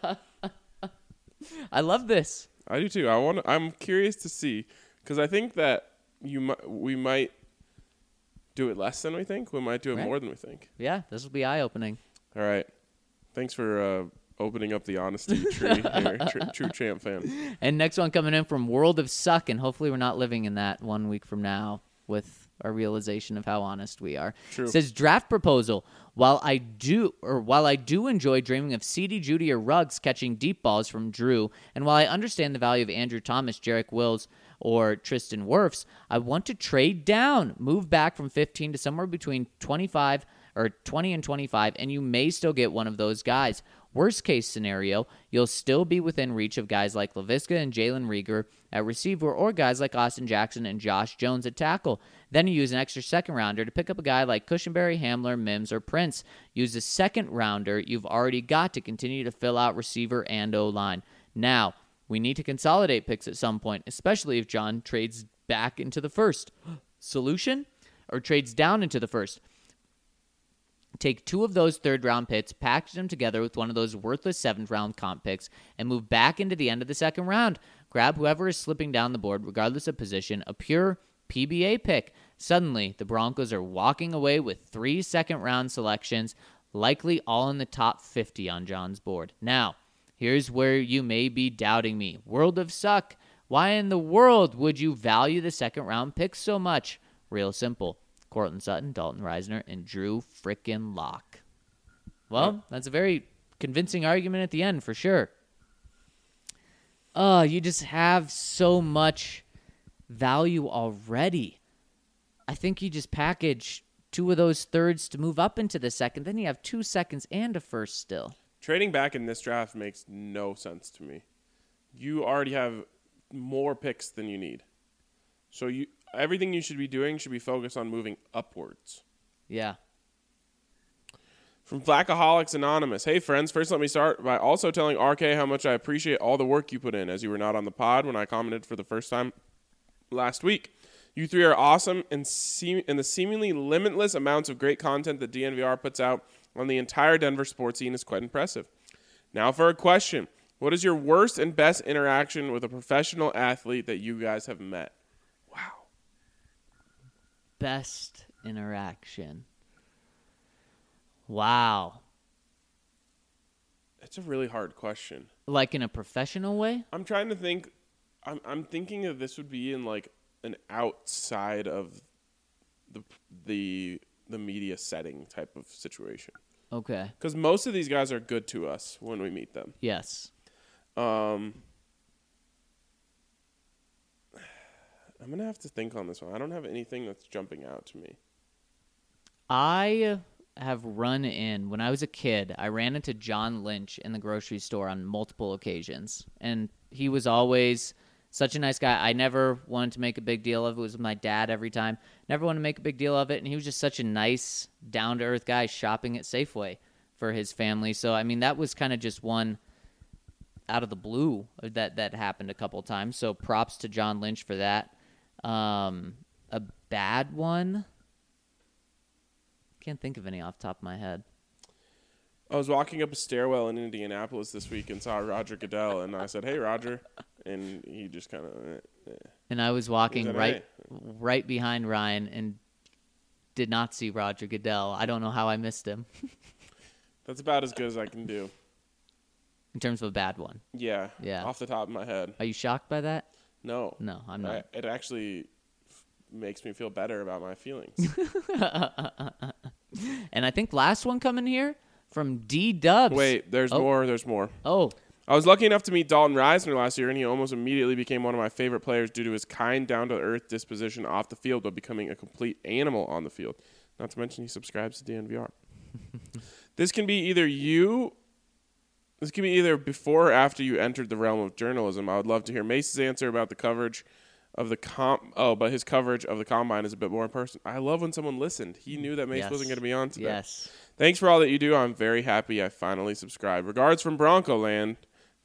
I love this. I do too. I want. I'm curious to see because I think that you might. We might do it less than we think. We might do it Right. more than we think. Yeah, this will be eye-opening. All right. Thanks for uh, opening up the honesty tree here, tr- true champ fan. And next one coming in from World of Suck, and hopefully we're not living in that one week from now with our realization of how honest we are. True. It says draft proposal. While I do, or while I do enjoy dreaming of C D Judy or Ruggs catching deep balls from Drew, and while I understand the value of Andrew Thomas, Jarek Wills, or Tristan Wirfs, I want to trade down, move back from fifteen to somewhere between twenty-five or twenty and twenty-five, and you may still get one of those guys. Worst case scenario, you'll still be within reach of guys like Laviska and Jalen Rieger at receiver, or guys like Austin Jackson and Josh Jones at tackle. Then you use an extra second rounder to pick up a guy like Cushenberry, Hamler, Mims, or Prince. Use a second rounder you've already got to continue to fill out receiver and O-line. Now, we need to consolidate picks at some point, especially if John trades back into the first. Solution? Or trades down into the first. Take two of those third-round picks, package them together with one of those worthless seventh-round comp picks, and move back into the end of the second round. Grab whoever is slipping down the board, regardless of position, a pure P B A pick. Suddenly, the Broncos are walking away with three second-round selections, likely all in the top fifty on John's board. Now, here's where you may be doubting me. World of Suck. Why in the world would you value the second-round picks so much? Real simple. Cortland Sutton, Dalton Reisner, and Drew frickin' Lock. Well, that's a very convincing argument at the end, for sure. Oh, you just have so much value already. I think you just package two of those thirds to move up into the second. Then you have two seconds and a first still. Trading back in this draft makes no sense to me. You already have more picks than you need. So you everything you should be doing should be focused on moving upwards. Yeah. From Flackaholics Anonymous. Hey, friends. First, let me start by also telling R K how much I appreciate all the work you put in, as you were not on the pod when I commented for the first time last week. You three are awesome, and, seem- and the seemingly limitless amounts of great content that D N V R puts out on the entire Denver sports scene is quite impressive. Now for a question. What is your worst and best interaction with a professional athlete that you guys have met? Wow. Best interaction. Wow. It's a really hard question. Like in a professional way? I'm trying to think. I'm I'm thinking that this would be in like an outside of the the the media setting type of situation. Okay. Because most of these guys are good to us when we meet them. Yes. Um, I'm gonna have to think on this one. I don't have anything that's jumping out to me. I have run in, when I was a kid, I ran into John Lynch in the grocery store on multiple occasions. And he was always such a nice guy. I never wanted to make a big deal of it. It was with my dad every time. Never wanted to make a big deal of it. And he was just such a nice, down-to-earth guy shopping at Safeway for his family. So, I mean, that was kind of just one out of the blue that, that happened a couple times. So props to John Lynch for that. Um, a bad one? Can't think of any off the top of my head. I was walking up a stairwell in Indianapolis this week and saw Roger Goodell, and I said, "Hey, Roger," and he just kind of. Eh, eh. And I was walking He said, right, "Hey." right behind Ryan and did not see Roger Goodell. I don't know how I missed him. That's about as good as I can do. In terms of a bad one. Yeah. Yeah. Off the top of my head. Are you shocked by that? No. No, I'm not. I, it actually f- makes me feel better about my feelings. And I think last one coming here from D Dubs. Wait, there's Oh. more. There's more. Oh, I was lucky enough to meet Dalton Reisner last year, and he almost immediately became one of my favorite players due to his kind, down-to-earth disposition off the field, but becoming a complete animal on the field. Not to mention he subscribes to D N V R. This can be either you... This can be either before or after you entered the realm of journalism. I would love to hear Mace's answer about the coverage of the com. Oh, but his coverage of the combine is a bit more in person. I love when someone listened. He knew that Mace yes. wasn't going to be on today. Yes. Thanks for all that you do. I'm very happy I finally subscribed. Regards from Bronco Land.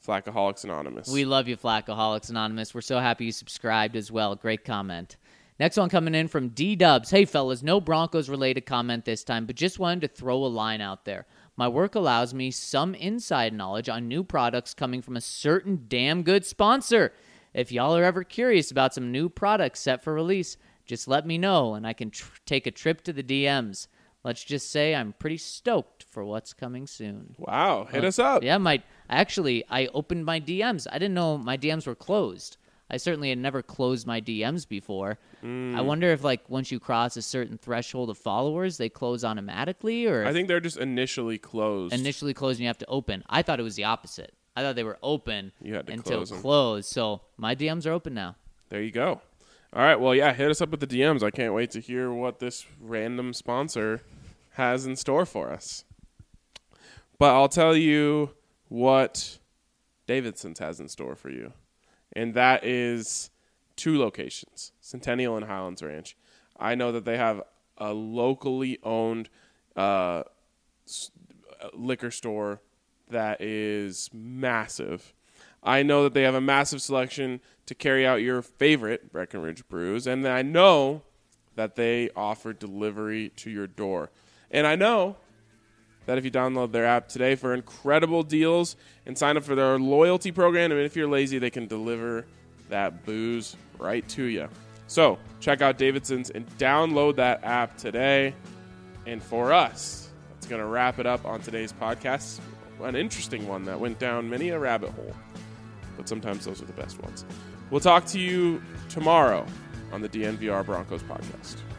Flackaholics Anonymous. We love you, Flackaholics Anonymous. We're so happy you subscribed as well. Great comment. Next one coming in from D-Dubs. Hey, fellas, no Broncos-related comment this time, but just wanted to throw a line out there. My work allows me some inside knowledge on new products coming from a certain damn good sponsor. If y'all are ever curious about some new products set for release, just let me know, and I can tr- take a trip to the D Ms. Let's just say I'm pretty stoked for what's coming soon. Wow, hit uh, us up. Yeah, my actually, I opened my D Ms. I didn't know my D Ms were closed. I certainly had never closed my D Ms before. Mm. I wonder if, like, once you cross a certain threshold of followers, they close automatically, or I think they're just initially closed. Initially closed, and you have to open. I thought it was the opposite. I thought they were open you had to until close them. closed. So my D Ms are open now. There you go. All right, well, yeah, hit us up with the D Ms. I can't wait to hear what this random sponsor has in store for us. But I'll tell you what Davidson's has in store for you. And that is two locations, Centennial and Highlands Ranch. I know that they have a locally owned uh, liquor store that is massive. I know that they have a massive selection to carry out your favorite Breckenridge brews, and I know that they offer delivery to your door. And I know that if you download their app today for incredible deals and sign up for their loyalty program, and if you're lazy, they can deliver that booze right to you. So check out Davidson's and download that app today. And for us, that's going to wrap it up on today's podcast. An interesting one that went down many a rabbit hole, but sometimes those are the best ones. We'll talk to you tomorrow on the D N V R Broncos podcast.